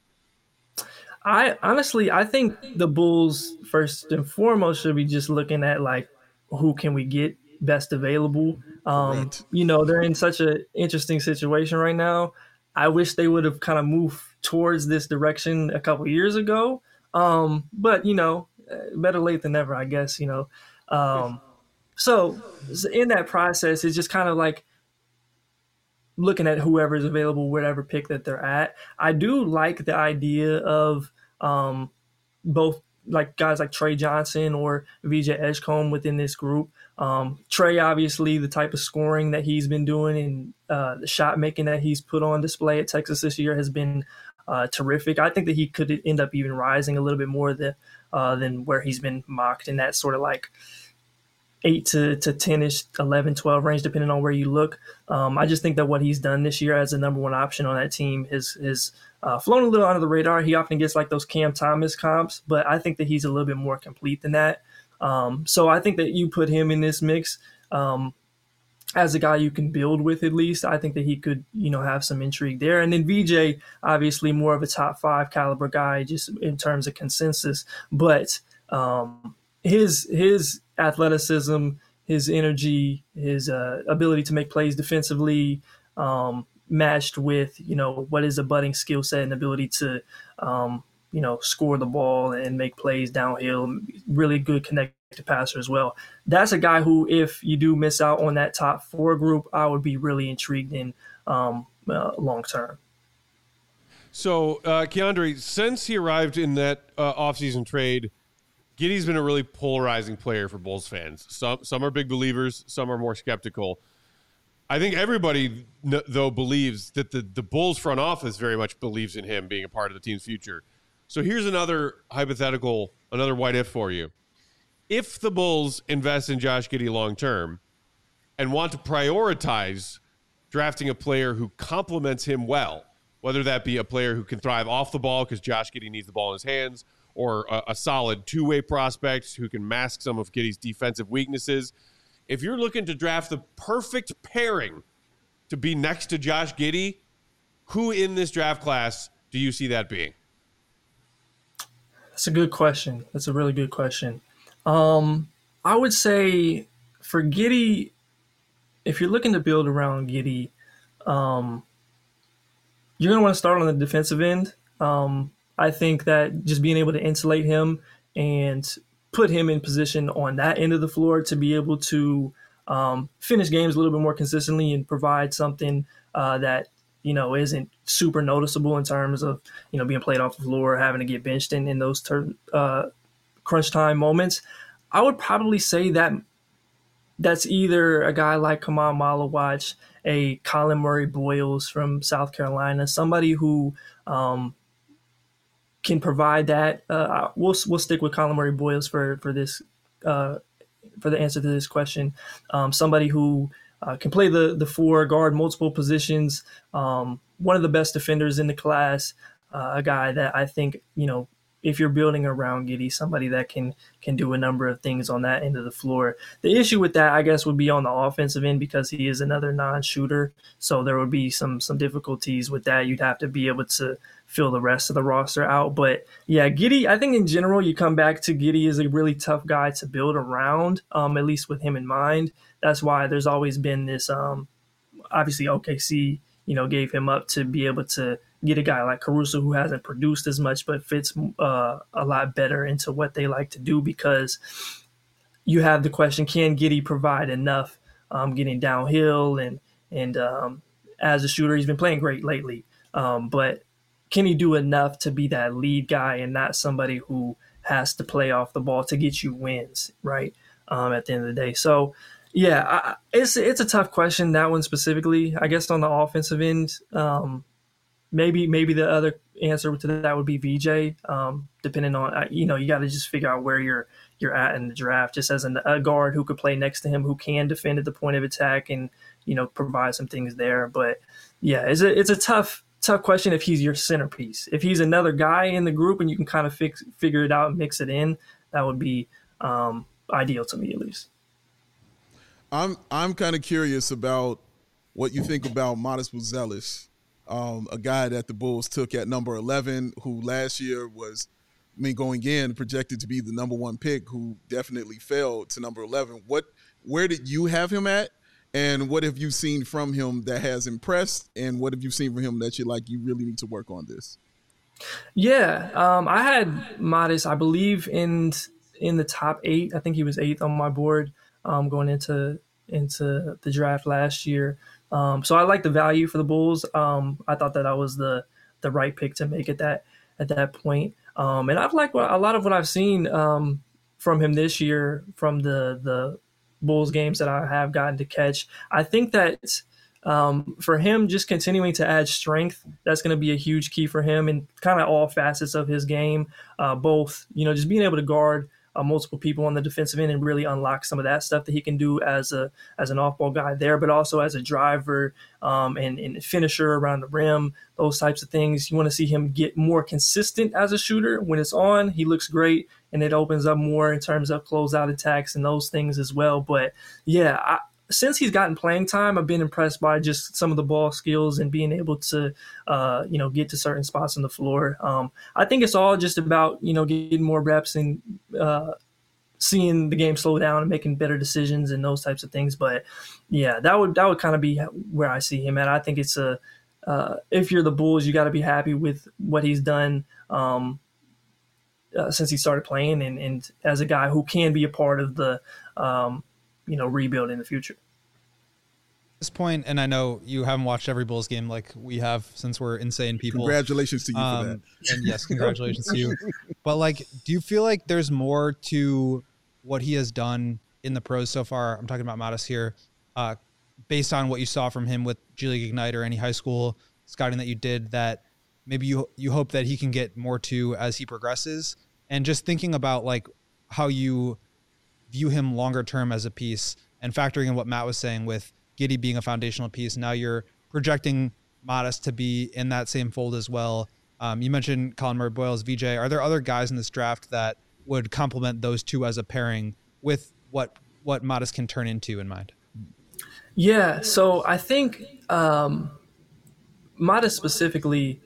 I honestly, I think the Bulls first and foremost should be just looking at like who can we get best available. Um, you know, they're in such an interesting situation right now. I wish they would have kind of moved towards this direction a couple years ago. Um, but you know, better late than never, I guess. You know, um, so in that process, it's just kind of like looking at whoever's available, whatever pick that they're at. I do like the idea of um, both like guys like Trey Johnson or V J Edgecombe within this group. Um, Trey, obviously, the type of scoring that he's been doing and uh, the shot making that he's put on display at Texas this year has been uh, terrific. I think that he could end up even rising a little bit more than, uh, than where he's been mocked in that sort of like eight to, to ten-ish, eleven, twelve range, depending on where you look. Um, I just think that what he's done this year as the number one option on that team has, has uh, flown a little under the radar. He often gets like those Cam Thomas comps, but I think that he's a little bit more complete than that. Um, so I think that you put him in this mix um, as a guy you can build with at least. I think that he could, you know, have some intrigue there. And then V J, obviously more of a top five caliber guy just in terms of consensus, but um, his his athleticism, his energy, his uh, ability to make plays defensively, um, matched with, you know, what is a budding skill set and ability to, um, you know, score the ball and make plays downhill, really good connected passer as well. That's a guy who, if you do miss out on that top four group, I would be really intrigued in um, uh, long term. So, uh, Keandre, since he arrived in that uh, offseason trade, Giddey's been a really polarizing player for Bulls fans. Some some are big believers, some are more skeptical. I think everybody, though, believes that the, the Bulls front office very much believes in him being a part of the team's future. So here's another hypothetical, another what if for you. If the Bulls invest in Josh Giddey long term and want to prioritize drafting a player who complements him well, whether that be a player who can thrive off the ball because Josh Giddey needs the ball in his hands, or a, a solid two-way prospect who can mask some of Giddey's defensive weaknesses. If you're looking to draft the perfect pairing to be next to Josh Giddey, who in this draft class do you see that being? That's a good question. That's a really good question. Um, I would say for Giddey, if you're looking to build around Giddey, um, you're going to want to start on the defensive end. Um, I think that just being able to insulate him and put him in position on that end of the floor to be able to um, finish games a little bit more consistently and provide something uh, that, you know, isn't super noticeable in terms of, you know, being played off the floor, having to get benched in, in those ter- uh, crunch time moments. I would probably say that that's either a guy like Kamal Malawach, a Colin Murray Boyles from South Carolina, somebody who um, – can provide that. Uh, we'll we'll stick with Colin Murray Boyles for for this uh, for the answer to this question. Um, somebody who uh, can play the the four, guard multiple positions. Um, one of the best defenders in the class. Uh, a guy that I think, you know, if you're building around Giddey, somebody that can can do a number of things on that end of the floor. The issue with that, I guess, would be on the offensive end because he is another non-shooter. So there would be some some difficulties with that. You'd have to be able to fill the rest of the roster out. But yeah, Giddey, I think in general, you come back to Giddey is a really tough guy to build around, um, at least with him in mind. That's why there's always been this, um, obviously O K C, you know, gave him up to be able to get a guy like Caruso who hasn't produced as much, but fits uh, a lot better into what they like to do, because you have the question, can Giddey provide enough um, getting downhill? And, and um, as a shooter, he's been playing great lately. Um, but can he do enough to be that lead guy and not somebody who has to play off the ball to get you wins, right, um, at the end of the day? So, yeah, I, it's it's a tough question, that one specifically. I guess on the offensive end, um, maybe maybe the other answer to that would be V J, um, depending on, you know, you got to just figure out where you're you're at in the draft, just as an, a guard who could play next to him, who can defend at the point of attack and, you know, provide some things there. But, yeah, it's a, it's a tough – tough question if he's your centerpiece. If he's another guy in the group and you can kind of fix, figure it out and mix it in, that would be um, ideal to me, at least. I'm I'm kind of curious about what you think about Modest Buzelis, um, a guy that the Bulls took at number eleven, who last year was, I mean, going in projected to be the number one pick, who definitely fell to number eleven. What, where did you have him at, and what have you seen from him that has impressed, and what have you seen from him that you're like, you really need to work on this? Yeah, um, I had Modest, I believe, in in the top eight. I think he was eighth on my board um, going into into the draft last year. Um, so I like the value for the Bulls. Um, I thought that I was the the right pick to make at that at that point. Um, and I've liked a lot of what I've seen um, from him this year, from the the Bulls games that I have gotten to catch. I think that um, for him, just continuing to add strength, that's going to be a huge key for him in kind of all facets of his game. Uh, both, you know, just being able to guard Uh, multiple people on the defensive end and really unlock some of that stuff that he can do as a as an off-ball guy there, but also as a driver um, and, and finisher around the rim, those types of things. You want to see him get more consistent as a shooter. When it's on, he looks great, and it opens up more in terms of closeout attacks and those things as well. But, yeah, I, since he's gotten playing time, I've been impressed by just some of the ball skills and being able to, uh, you know, get to certain spots on the floor. Um, I think it's all just about, you know, getting more reps and uh, seeing the game slow down and making better decisions and those types of things. But yeah, that would that would kind of be where I see him at. I think it's a uh, if you're the Bulls, you got to be happy with what he's done um, uh, since he started playing, and, and as a guy who can be a part of the um, you know, rebuild in the future. At this point, and I know you haven't watched every Bulls game like we have since we're insane people. Congratulations to you um, for that. And yes, congratulations to you. But like, do you feel like there's more to what he has done in the pros so far? I'm talking about Modest here, uh, based on what you saw from him with G League Ignite or any high school scouting that you did, that maybe you you hope that he can get more to as he progresses, and just thinking about like how you view him longer term as a piece, and factoring in what Matt was saying with Giddey being a foundational piece. Now you're projecting Modest to be in that same fold as well. Um, you mentioned Colin Murray-Boyles, V J. Are there other guys in this draft that would complement those two as a pairing with what what Modest can turn into in mind? Yeah, so I think um, Modest specifically,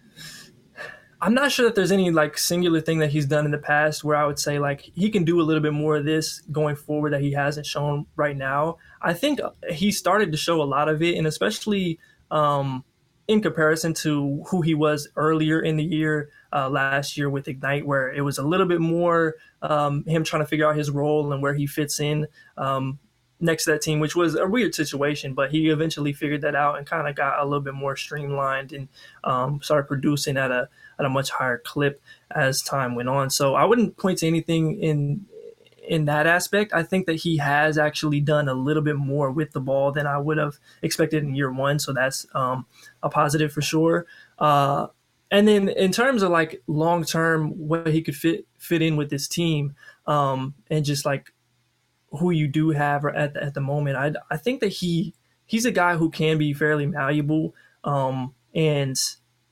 I'm not sure that there's any like singular thing that he's done in the past where I would say like he can do a little bit more of this going forward that he hasn't shown right now. I think he started to show a lot of it, and especially um, in comparison to who he was earlier in the year, uh, last year with Ignite, where it was a little bit more um, him trying to figure out his role and where he fits in um, next to that team, which was a weird situation, but he eventually figured that out and kind of got a little bit more streamlined and um, started producing at a at a much higher clip as time went on. So I wouldn't point to anything in in that aspect. I think that he has actually done a little bit more with the ball than I would have expected in year one. So that's um, a positive for sure. Uh, and then in terms of like long term, what he could fit fit in with this team um, and just like who you do have at the, at the moment, I I think that he he's a guy who can be fairly malleable um, and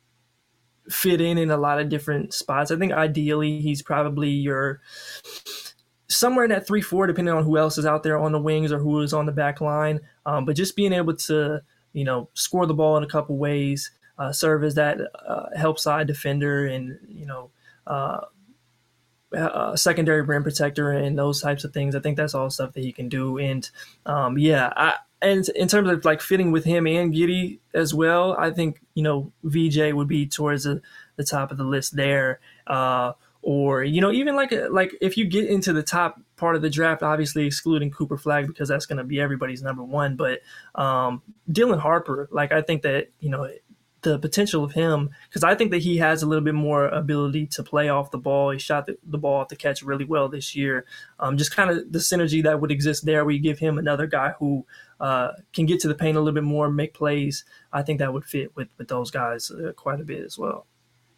fit in in a lot of different spots. I think ideally he's probably your somewhere in that three four, depending on who else is out there on the wings or who is on the back line. Um, but just being able to, you know, score the ball in a couple ways, uh, serve as that uh, help side defender and, you know, uh, uh, secondary rim protector and those types of things. I think that's all stuff that he can do. And um, yeah, I, and in terms of like fitting with him and Giddey as well, I think, you know, V J would be towards the, the top of the list there. Uh, or, you know, even like like if you get into the top part of the draft, obviously excluding Cooper Flagg because that's going to be everybody's number one. But um, Dylan Harper, like I think that, you know, the potential of him, because I think that he has a little bit more ability to play off the ball. He shot the, the ball off the catch really well this year. Um, just kind of the synergy that would exist there where you give him another guy who uh, can get to the paint a little bit more, make plays. I think that would fit with, with those guys uh, quite a bit as well.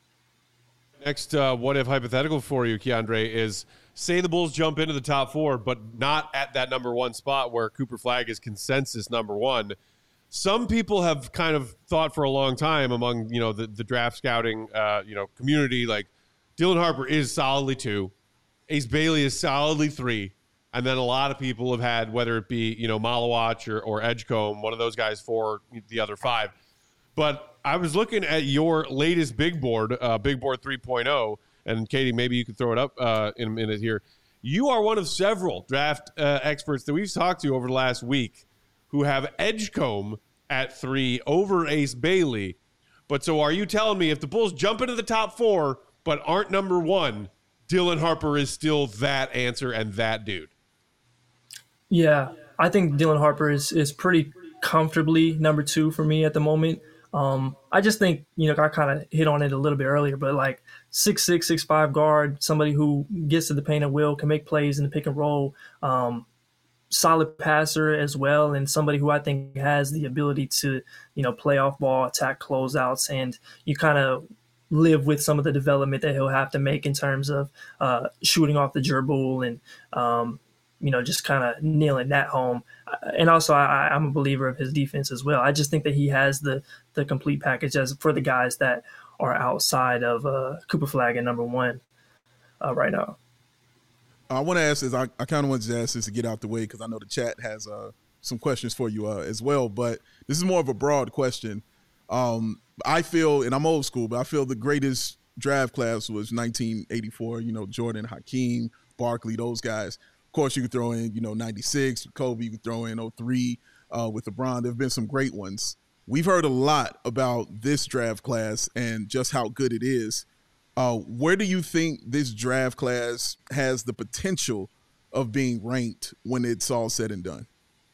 Next, uh, what if hypothetical for you, Keandre, is say the Bulls jump into the top four, but not at that number one spot where Cooper Flagg is consensus number one. Some people have kind of thought for a long time among, you know, the, the draft scouting, uh, you know, community, like Dylan Harper is solidly two. Ace Bailey is solidly three. And then a lot of people have had, whether it be, you know, Malawach or, or Edgecombe, one of those guys for the other five. But I was looking at your latest big board, uh, Big Board three point oh, and Katie, maybe you could throw it up uh, in a minute here. You are one of several draft uh, experts that we've talked to over the last week who have Edgecombe at three over Ace Bailey. But so are you telling me if the Bulls jump into the top four but aren't number one, Dylan Harper is still that answer and that dude? Yeah, I think Dylan Harper is is pretty comfortably number two for me at the moment. Um, I just think, you know, I kind of hit on it a little bit earlier, but like six six, six five guard, somebody who gets to the paint at will, can make plays in the pick and roll, um, solid passer as well, and somebody who I think has the ability to, you know, play off ball, attack closeouts, and you kind of live with some of the development that he'll have to make in terms of uh, shooting off the dribble and, um, you know, just kind of nailing that home. And also, I, I'm a believer of his defense as well. I just think that he has the the complete package as for the guys that are outside of uh, Cooper Flagg at number one uh, right now. I want to ask this. I, I kind of wanted to ask this to get out the way because I know the chat has uh, some questions for you uh, as well. But this is more of a broad question. Um, I feel, and I'm old school, but I feel the greatest draft class was nineteen eighty-four. You know, Jordan, Hakeem, Barkley, those guys. Of course, you could throw in, you know, ninety-six, Kobe. You could throw in oh three uh, with LeBron. There have been some great ones. We've heard a lot about this draft class and just how good it is. Uh, where do you think this draft class has the potential of being ranked when it's all said and done?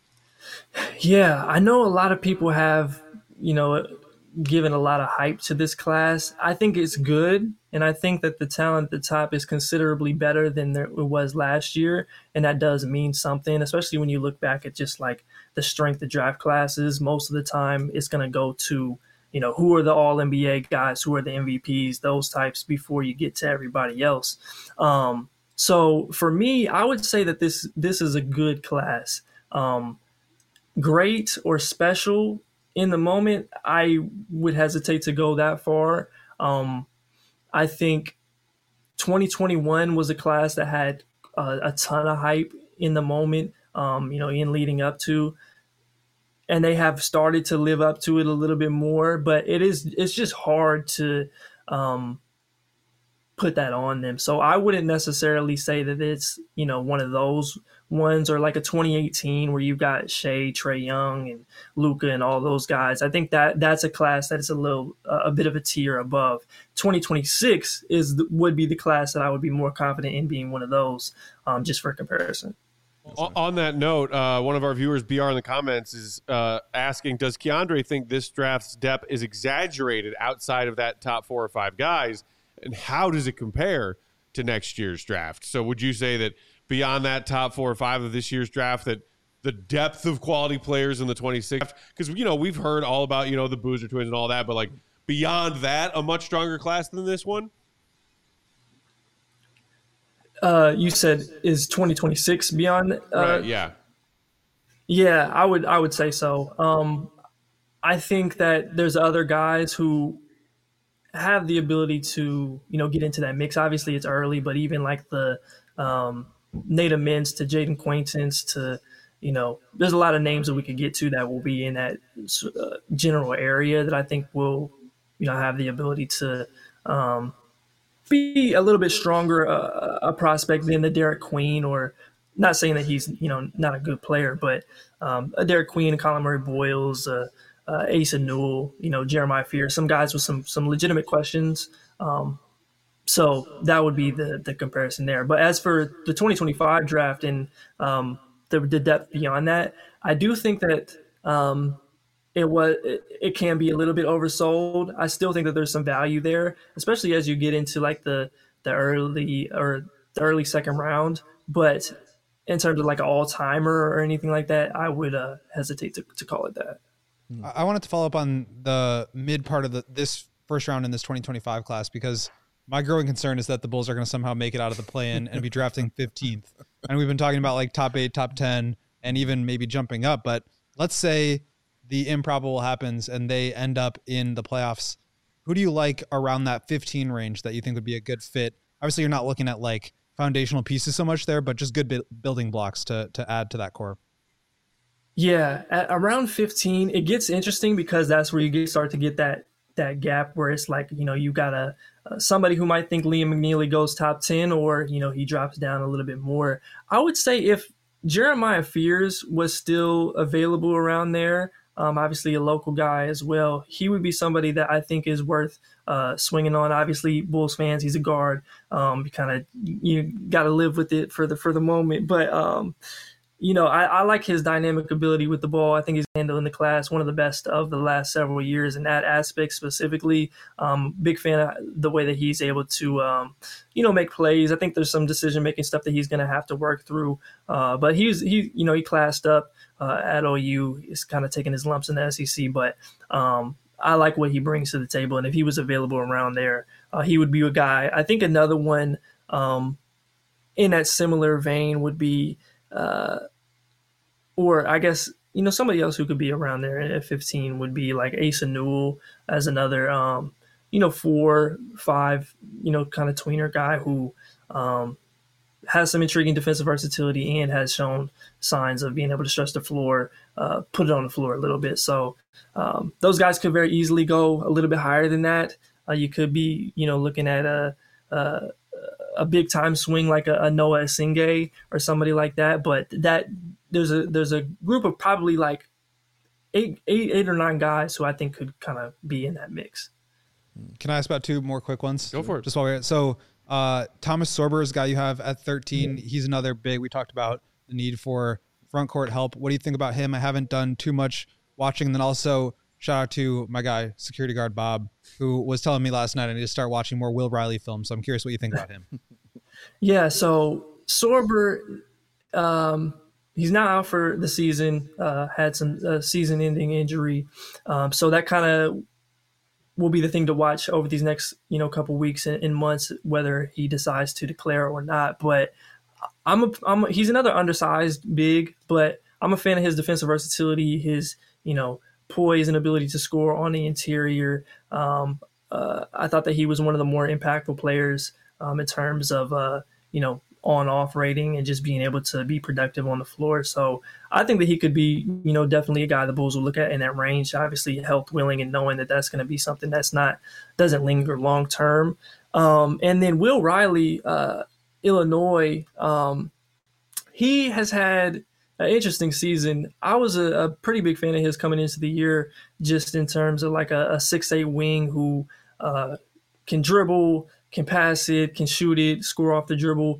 Yeah, I know a lot of people have, you know, given a lot of hype to this class. I think it's good, and I think that the talent at the top is considerably better than there, it was last year, and that does mean something, especially when you look back at just like the strength of draft classes. Most of the time it's going to go to, you know, who are the all N B A guys, who are the M V Ps, those types before you get to everybody else. Um, so for me, I would say that this this is a good class. Um, great or special in the moment, I would hesitate to go that far. Um, I think twenty twenty-one was a class that had a, a ton of hype in the moment, um, you know, in leading up to, and they have started to live up to it a little bit more, but it is, it's just hard to um, put that on them. So I wouldn't necessarily say that it's, you know, one of those ones, or like a twenty eighteen where you've got Shea, Trae Young, and Luka and all those guys. I think that that's a class that is a little, uh, a bit of a tier above. twenty twenty-six is the, would be the class that I would be more confident in being one of those, um, just for comparison. On that note, uh, one of our viewers, B R in the comments, is uh, asking, does Keandre think this draft's depth is exaggerated outside of that top four or five guys? And how does it compare to next year's draft? So would you say that beyond that top four or five of this year's draft, that the depth of quality players in the twenty-six, because, you know, we've heard all about, you know, the Boozer twins and all that, but like beyond that, a much stronger class than this one? Uh, you said is twenty twenty-six beyond? Uh, right, yeah. Yeah, I would, I would say so. Um, I think that there's other guys who have the ability to, you know, get into that mix. Obviously it's early, but even like the, um, Native Mintz to Jaden Quaintance to, you know, there's a lot of names that we could get to that will be in that uh, general area that I think will, you know, have the ability to um, be a little bit stronger uh, a prospect than the Derek Queen, or not saying that he's, you know, not a good player, but um, a Derek Queen, Colin Murray Boyles, uh, uh, Asa Newell, you know, Jeremiah Fear, some guys with some some legitimate questions. Um, So that would be the the comparison there. But as for the twenty twenty-five draft and um, the, the depth beyond that, I do think that um, it was it, it can be a little bit oversold. I still think that there's some value there, especially as you get into like the the early or the early second round. But in terms of like an all timer or anything like that, I would uh, hesitate to, to call it that. I wanted to follow up on the mid part of the this first round in this twenty twenty-five class, because my growing concern is that the Bulls are going to somehow make it out of the play-in and be drafting fifteenth. And we've been talking about like top eight, top ten, and even maybe jumping up. But let's say the improbable happens and they end up in the playoffs. Who do you like around that fifteen range that you think would be a good fit? Obviously, you're not looking at like foundational pieces so much there, but just good bi- building blocks to to add to that core. Yeah, at around fifteen, it gets interesting because that's where you get, start to get that that gap where it's like, you know, you got a uh, somebody who might think Liam McNeely goes top ten, or, you know, he drops down a little bit more. I would say if Jeremiah Fears was still available around there, um, obviously a local guy as well, he would be somebody that I think is worth uh, swinging on. Obviously, Bulls fans, he's a guard. Um, you kind of you got to live with it for the for the moment, but. Um, You know, I, I like his dynamic ability with the ball. I think he's handling the class, one of the best of the last several years in that aspect specifically. Um, big fan of the way that he's able to, um, you know, make plays. I think there's some decision-making stuff that he's going to have to work through. Uh, but he's, he, you know, he classed up uh, at O U. He's kind of taking his lumps in the S E C. But um, I like what he brings to the table. And if he was available around there, uh, he would be a guy. I think another one um, in that similar vein would be uh, – or I guess, you know, somebody else who could be around there at fifteen would be like Asa Newell as another, um, you know, four, five, you know, kind of tweener guy who um, has some intriguing defensive versatility and has shown signs of being able to stretch the floor, uh, put it on the floor a little bit. So um, those guys could very easily go a little bit higher than that. Uh, you could be, you know, looking at a, a, a big time swing like a, a Noah Esingay or somebody like that. But that there's a there's a group of probably like eight eight eight or nine guys who I think could kind of be in that mix. Can I ask about two more quick ones? Go for it. Just while we're at, so uh, Thomas Sorber is a guy you have at thirteen. Mm-hmm. He's another big. We talked about the need for front court help. What do you think about him? I haven't done too much watching. And then also shout out to my guy, security guard Bob, who was telling me last night I need to start watching more Will Riley films. So I'm curious what you think about him. Yeah, so Sorber, um, he's not out for the season, uh, had some uh, season-ending injury. Um, so that kind of will be the thing to watch over these next, you know, couple weeks and, and months, whether he decides to declare or not. But I'm a, I'm a, he's another undersized big, but I'm a fan of his defensive versatility, his, you know, poise and ability to score on the interior. Um, uh, I thought that he was one of the more impactful players um, in terms of, uh, you know, on-off rating and just being able to be productive on the floor. So I think that he could be, you know, definitely a guy the Bulls will look at in that range. Obviously, health willing and knowing that that's going to be something that's not doesn't linger long term. Um, and then Will Riley, uh, Illinois, um, he has had an interesting season. I was a, a pretty big fan of his coming into the year, just in terms of like a, a six eight wing who uh, can dribble, can pass it, can shoot it, score off the dribble.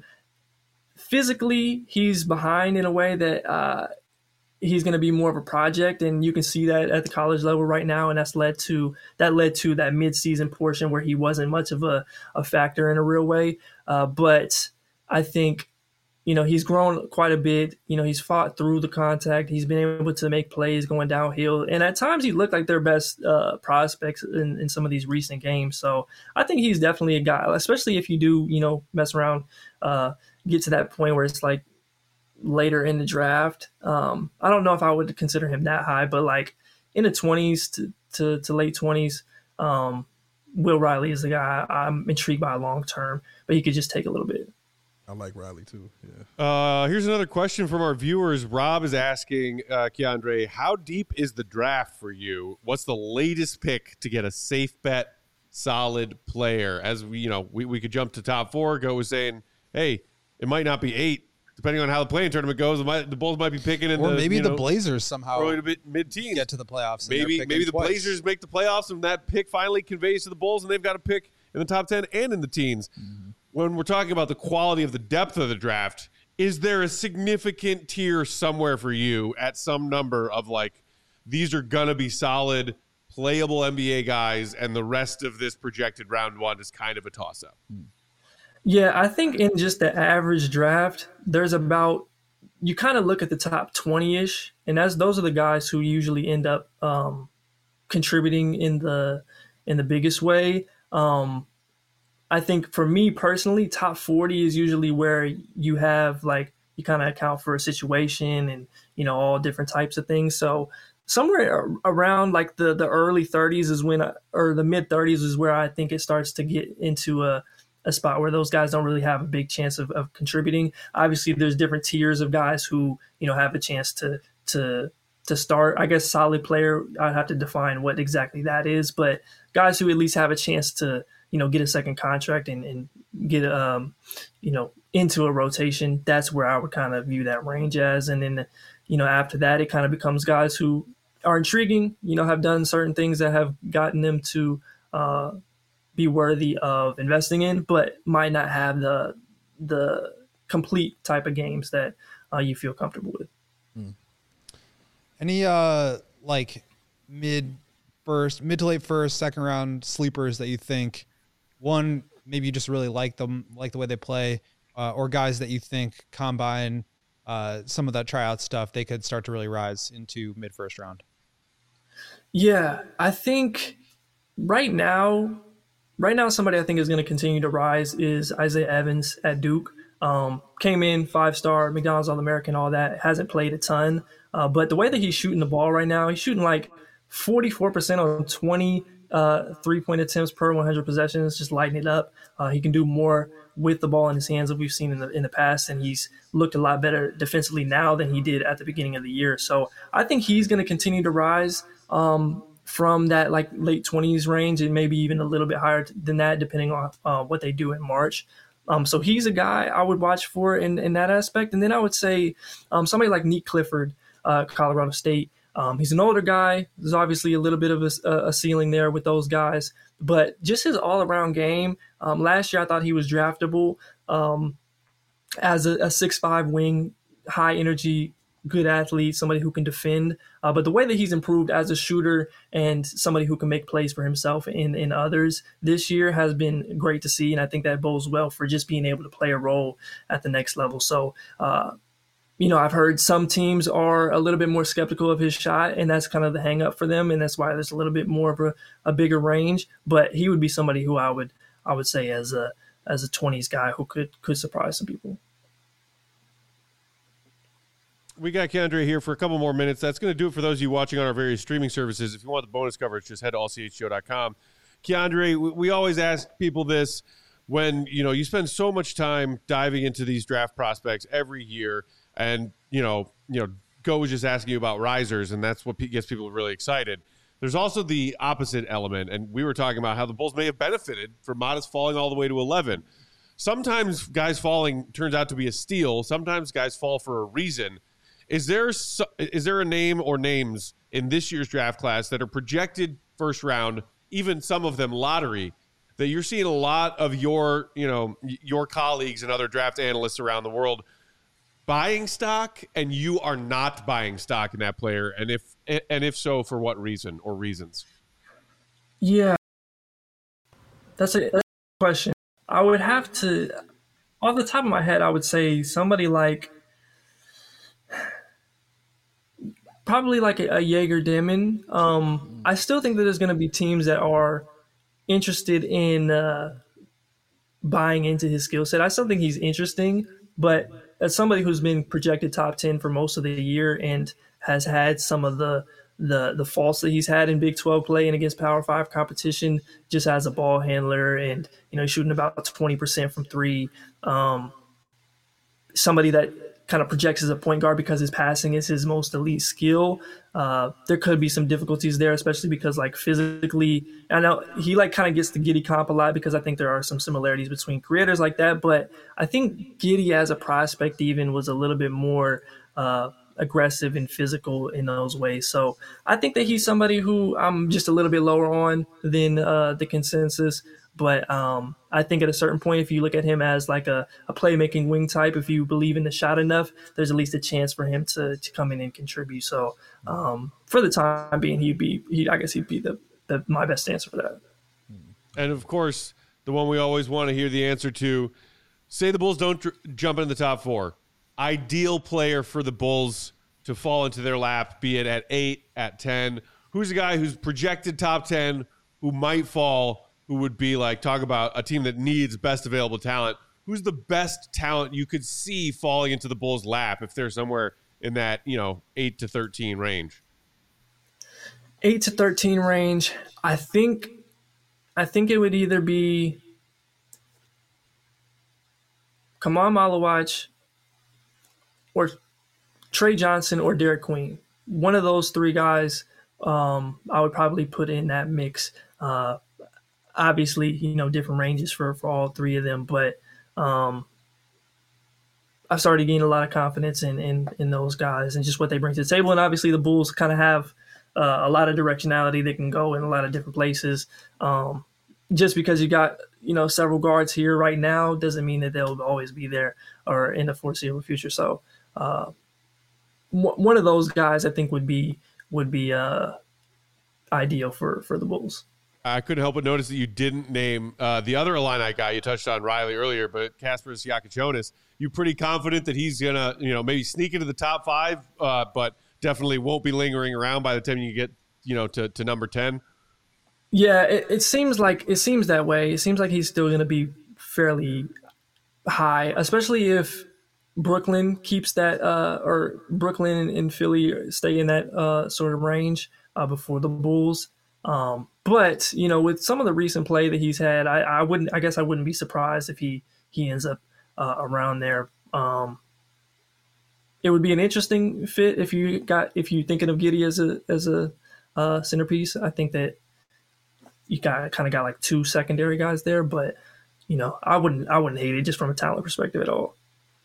Physically, he's behind in a way that uh, he's going to be more of a project, and you can see that at the college level right now. And that's led to that led to that midseason portion where he wasn't much of a, a factor in a real way. Uh, but I think, you know, he's grown quite a bit. You know, he's fought through the contact. He's been able to make plays going downhill. And at times he looked like their best uh, prospects in, in some of these recent games. So I think he's definitely a guy, especially if you do, you know, mess around, uh, get to that point where it's like later in the draft. Um, I don't know if I would consider him that high, but like in the twenties to, to, to late twenties, um, Will Riley is the guy I'm intrigued by long term, but he could just take a little bit. I like Riley too. Yeah. Uh, here's another question from our viewers. Rob is asking, uh, Keandre, how deep is the draft for you? What's the latest pick to get a safe bet, solid player? As we, you know, we, we could jump to top four. Go was saying, hey, it might not be eight, depending on how the playing tournament goes. It might, the Bulls might be picking in or the, maybe you the know, Blazers somehow early to mid teens get to the playoffs. And maybe they're maybe the twice. Blazers make the playoffs and that pick finally conveys to the Bulls, and they've got a pick in the top ten and in the teens. Mm-hmm. When we're talking about the quality of the depth of the draft, is there a significant tier somewhere for you at some number of like, these are going to be solid, playable N B A guys, and the rest of this projected round one is kind of a toss-up? Yeah, I think in just the average draft, there's about, you kind of look at the top twenty-ish, and that's those are the guys who usually end up um, contributing in the in the biggest way. Um, I think for me personally, top forty is usually where you have like you kind of account for a situation and, you know, all different types of things. So somewhere around like the, the early thirties is when, I, or the mid thirties is where I think it starts to get into a, a spot where those guys don't really have a big chance of, of contributing. Obviously, there's different tiers of guys who, you know, have a chance to to to start. I guess solid player, I'd have to define what exactly that is, but guys who at least have a chance to, you know, get a second contract and, and get, um, you know, into a rotation, that's where I would kind of view that range as. And then, you know, after that, it kind of becomes guys who are intriguing, you know, have done certain things that have gotten them to uh, be worthy of investing in, but might not have the the complete type of games that uh, you feel comfortable with. Any uh like mid first, mid to late first, second round sleepers that you think, one, maybe you just really like them, like the way they play, uh, or guys that you think combine uh, some of that tryout stuff, they could start to really rise into mid first round? Yeah, I think right now, right now, somebody I think is going to continue to rise is Isaiah Evans at Duke. Um, came in five star, McDonald's All American, all that. Hasn't played a ton, uh, but the way that he's shooting the ball right now, he's shooting like forty-four percent on twenty uh, three point attempts per one hundred possessions, just lighting it up. Uh, he can do more with the ball in his hands than we've seen in the in the past, and he's looked a lot better defensively now than he did at the beginning of the year. So I think he's going to continue to rise um, from that like late twenties range, and maybe even a little bit higher than that, depending on uh, what they do in March. Um, so he's a guy I would watch for in, in that aspect. And then I would say um, somebody like Nick Clifford, uh, Colorado State. Um, he's an older guy. There's obviously a little bit of a, a ceiling there with those guys, but just his all-around game. Um, last year, I thought he was draftable um, as a, a six five wing, high-energy, good athlete, somebody who can defend. Uh, but the way that he's improved as a shooter and somebody who can make plays for himself and, and others this year has been great to see, and I think that bodes well for just being able to play a role at the next level. So, uh, you know, I've heard some teams are a little bit more skeptical of his shot, and that's kind of the hang up for them, and that's why there's a little bit more of a, a bigger range. But he would be somebody who I would I would say as a as a twenties guy who could could surprise some people. We got Keandre here for a couple more minutes. That's going to do it for those of you watching on our various streaming services. If you want the bonus coverage, just head to all c h g o dot com. Keandre, we, we always ask people this when, you know, you spend so much time diving into these draft prospects every year, and, you know, you know, Go was just asking you about risers, and that's what gets people really excited. There's also the opposite element, and we were talking about how the Bulls may have benefited from Modest falling all the way to eleven. Sometimes guys falling turns out to be a steal. Sometimes guys fall for a reason. Is there is there a name or names in this year's draft class that are projected first round, even some of them lottery, that you're seeing a lot of your, you know, your colleagues and other draft analysts around the world buying stock, and you are not buying stock in that player? And if and if so, for what reason or reasons? Yeah, that's a, that's a question. I would have to, off the top of my head, I would say somebody like, probably like a, a Jaeger Demon. Um, I still think that there's going to be teams that are interested in uh, buying into his skill set. I still think he's interesting, but as somebody who's been projected top ten for most of the year and has had some of the the the faults that he's had in Big twelve play and against Power Five competition, just as a ball handler and, you know, shooting about twenty percent from three. Um, somebody that kind of projects as a point guard because his passing is his most elite skill. Uh, there could be some difficulties there, especially because, like, physically, I know he like kind of gets the Giddey comp a lot because I think there are some similarities between creators like that. But I think Giddey as a prospect even was a little bit more uh, aggressive and physical in those ways. So I think that he's somebody who I'm just a little bit lower on than uh, the consensus. But um, I think at a certain point, if you look at him as like a, a playmaking wing type, if you believe in the shot enough, there's at least a chance for him to, to come in and contribute. So um, for the time being, he'd be, he, I guess he'd be the, the my best answer for that. And of course, the one we always want to hear the answer to, say the Bulls don't dr- jump into the top four. Ideal player for the Bulls to fall into their lap, be it at eight, at ten. Who's a guy who's projected top ten, who might fall, who would be like, talk about a team that needs best available talent? Who's the best talent you could see falling into the Bulls' lap if they're somewhere in that, you know, eight to thirteen range? eight to thirteen range. I think, I think it would either be, Kamon Malawach or Trey Johnson or Derek Queen. One of those three guys, um, I would probably put in that mix. Uh, obviously, you know, different ranges for, for all three of them, but um, I started gaining a lot of confidence in, in in those guys and just what they bring to the table. And obviously, the Bulls kind of have uh, a lot of directionality. They can go in a lot of different places. Um, just because you got, you know, several guards here right now doesn't mean that they'll always be there or in the foreseeable future. So. Uh, One of those guys, I think, would be would be uh, ideal for, for the Bulls. I couldn't help but notice that you didn't name uh, the other Illini guy. You touched on Riley earlier, but Kasparas Siakachonis. You pretty confident that he's gonna, you know, maybe sneak into the top five, uh, but definitely won't be lingering around by the time you get, you know, to, to number ten. Yeah, it, it seems like it seems that way. It seems like he's still going to be fairly high, especially if Brooklyn keeps that, uh, or Brooklyn and Philly stay in that uh, sort of range uh, before the Bulls. Um, but you know, with some of the recent play that he's had, I, I wouldn't. I guess I wouldn't be surprised if he he ends up uh, around there. Um, it would be an interesting fit if you got if you thinking of Giddey as a as a uh, centerpiece. I think that you got kind of got like two secondary guys there, but you know, I wouldn't I wouldn't hate it just from a talent perspective at all.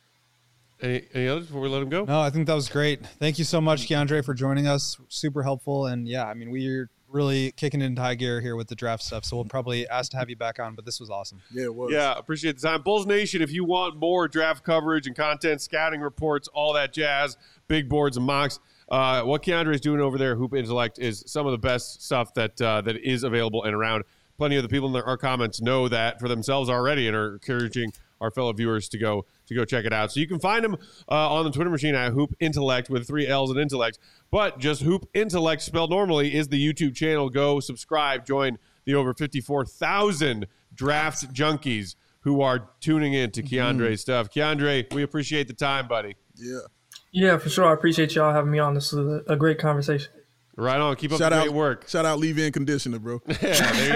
Any, any others before we let him go? No, I think that was great. Thank you so much, Keandre, for joining us. Super helpful. And yeah, I mean, we're really kicking it into high gear here with the draft stuff. So we'll probably ask to have you back on, but this was awesome. Yeah, it was. Yeah, appreciate the time. Bulls Nation, if you want more draft coverage and content, scouting reports, all that jazz, big boards and mocks, uh, what Keandre is doing over there, Hoop Intellect, is some of the best stuff that uh, that is available and around. Plenty of the people in our comments know that for themselves already and are encouraging our fellow viewers to go to go check it out. So you can find him uh, on the Twitter machine at Hoop Intellect with three L's and Intellect. But just Hoop Intellect spelled normally is the YouTube channel. Go subscribe, join the over fifty-four thousand draft junkies who are tuning in to Keandre's mm-hmm. stuff. Keandre, we appreciate the time, buddy. Yeah. Yeah, for sure. I appreciate y'all having me on. This was a, a great conversation. Right on. Keep up shout the out, great work. Shout out leave-in conditioner, bro. Yeah, there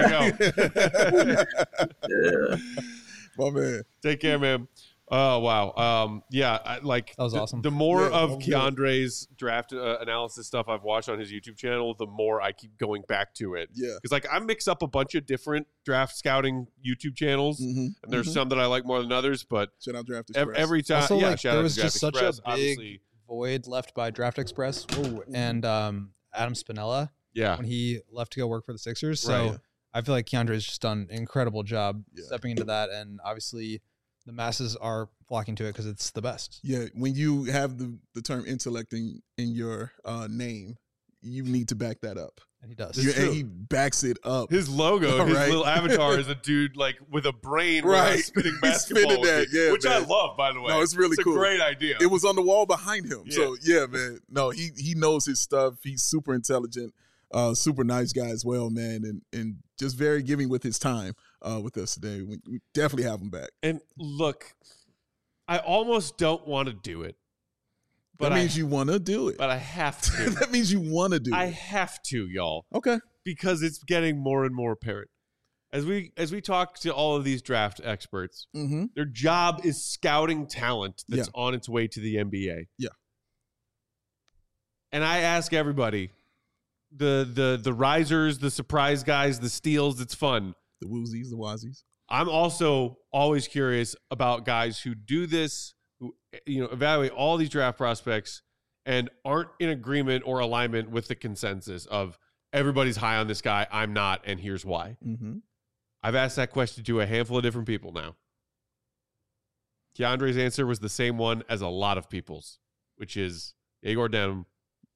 you go. Yeah. My man. Take care, man. Oh, wow. Um, yeah, I, like that was the, awesome. The more yeah, of Keandre's draft uh, analysis stuff I've watched on his YouTube channel, the more I keep going back to it. Yeah. Because like I mix up a bunch of different draft scouting YouTube channels, mm-hmm. and there's mm-hmm. some that I like more than others. But shout out Draft Express. every, every time, also, yeah, like, shout there out was to just Draft such a Express, big obviously. void left by Draft Express Ooh, and um, Adam Spinella Yeah. when he left to go work for the Sixers. So Right. I feel like Keandre's just done an incredible job Yeah. stepping into that, and obviously the masses are flocking to it because it's the best. Yeah, when you have the, the term intellect in, in your uh, name, you need to back that up. And he does. You, true. and he backs it up. His logo, his Right. little avatar is a dude like with a brain, with Right. a spinning He's basketball, spinning with that, it, yeah, which I man. love, by the way. No, it's really it's cool. a great idea. It was on the wall behind him. Yeah. So, yeah, man. No, he he knows his stuff. He's super intelligent, uh, super nice guy as well, man, and and just very giving with his time uh, with us today. We, we definitely have him back. And look, I almost don't want to do it, but that I, means you want to do it. but I have to. That means you want to do I it. have to, y'all, Okay. because it's getting more and more apparent. As we as we talk to all of these draft experts, Mm-hmm. their job is scouting talent that's Yeah. on its way to the N B A. Yeah. And I ask everybody, the the the risers, the surprise guys, the steals, it's fun. The woozies, the wazies. I'm also always curious about guys who do this, who you know evaluate all these draft prospects and aren't in agreement or alignment with the consensus of everybody's high on this guy, I'm not, and here's why. Mm-hmm. I've asked that question to a handful of different people now. Keandre's answer was the same one as a lot of people's, which is Igor Denham,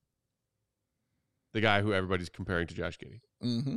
the guy who everybody's comparing to Josh Giddey. Mm-hmm.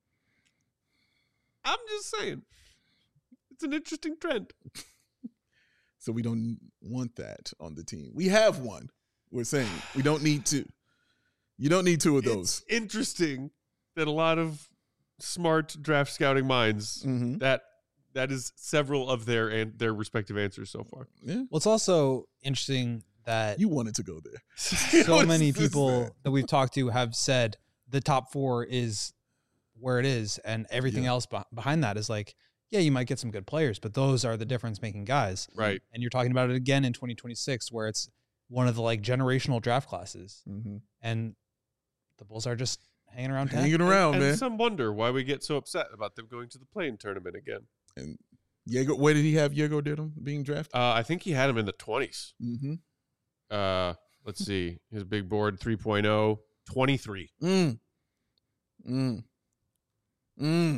I'm just saying, it's an interesting trend. So we don't want that on the team. We have one. We're saying we don't need two. You don't need two of those. It's interesting that a lot of smart draft scouting minds Mm-hmm. that that is several of their and their respective answers so far. Yeah. Well, it's also interesting that You wanted to go there. so What many is this, people man? that we've talked to have said the top four is where it is, and everything Yeah. else beh- behind that is like yeah, you might get some good players, but those are the difference-making guys. Right. And you're talking about it again in twenty twenty-six, where it's one of the like generational draft classes, Mm-hmm. and the Bulls are just hanging around town. Hanging around, and, man. and some wonder why we get so upset about them going to the play-in tournament again. And Jaeger, where did he have Jaeger Diddum being drafted? Uh, I think he had him in the twenties. Mm-hmm. Uh, let's see. His big board three point oh, twenty-three. Mm. Mm. Mm.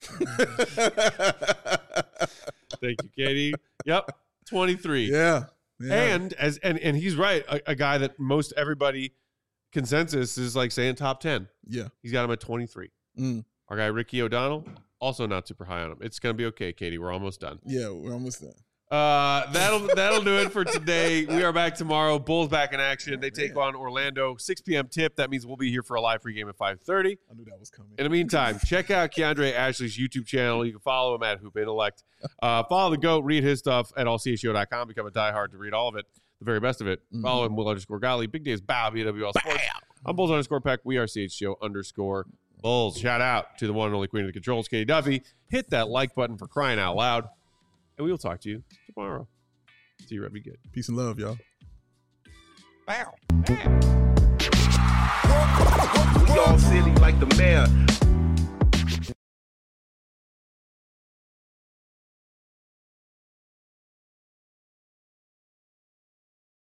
Thank you, Katie. Yep, twenty-three. yeah. yeah. And as and and he's right, a, a guy that most everybody consensus is like saying top ten. yeah. He's got him at twenty-three. Mm. Our guy Ricky O'Donnell, also not super high on him. It's gonna be okay, Katie. We're almost done. Yeah, we're almost done. Uh, that'll that'll do it for today. We are back tomorrow. Bulls back in action. They take on Orlando, six p.m. tip. That means we'll be here for a live pregame at five thirty. I knew that was coming. In the meantime, check out Keandre Ashley's YouTube channel. You can follow him at Hoop Intellect. Uh, follow the GOAT. Read his stuff at all c h o dot com. Become a diehard to read all of it, the very best of it. Mm-hmm. Follow him, Will underscore Golly. Big Days Bow, B W L Sports. I'm Bulls underscore Peck. We are C H G O underscore Bulls. Shout out to the one and only queen of the controls, Katie Duffy. Hit that like button for crying out loud. And we will talk to you tomorrow. See you, Red. Be good. Peace and love, y'all. Bow. We all silly like the mayor.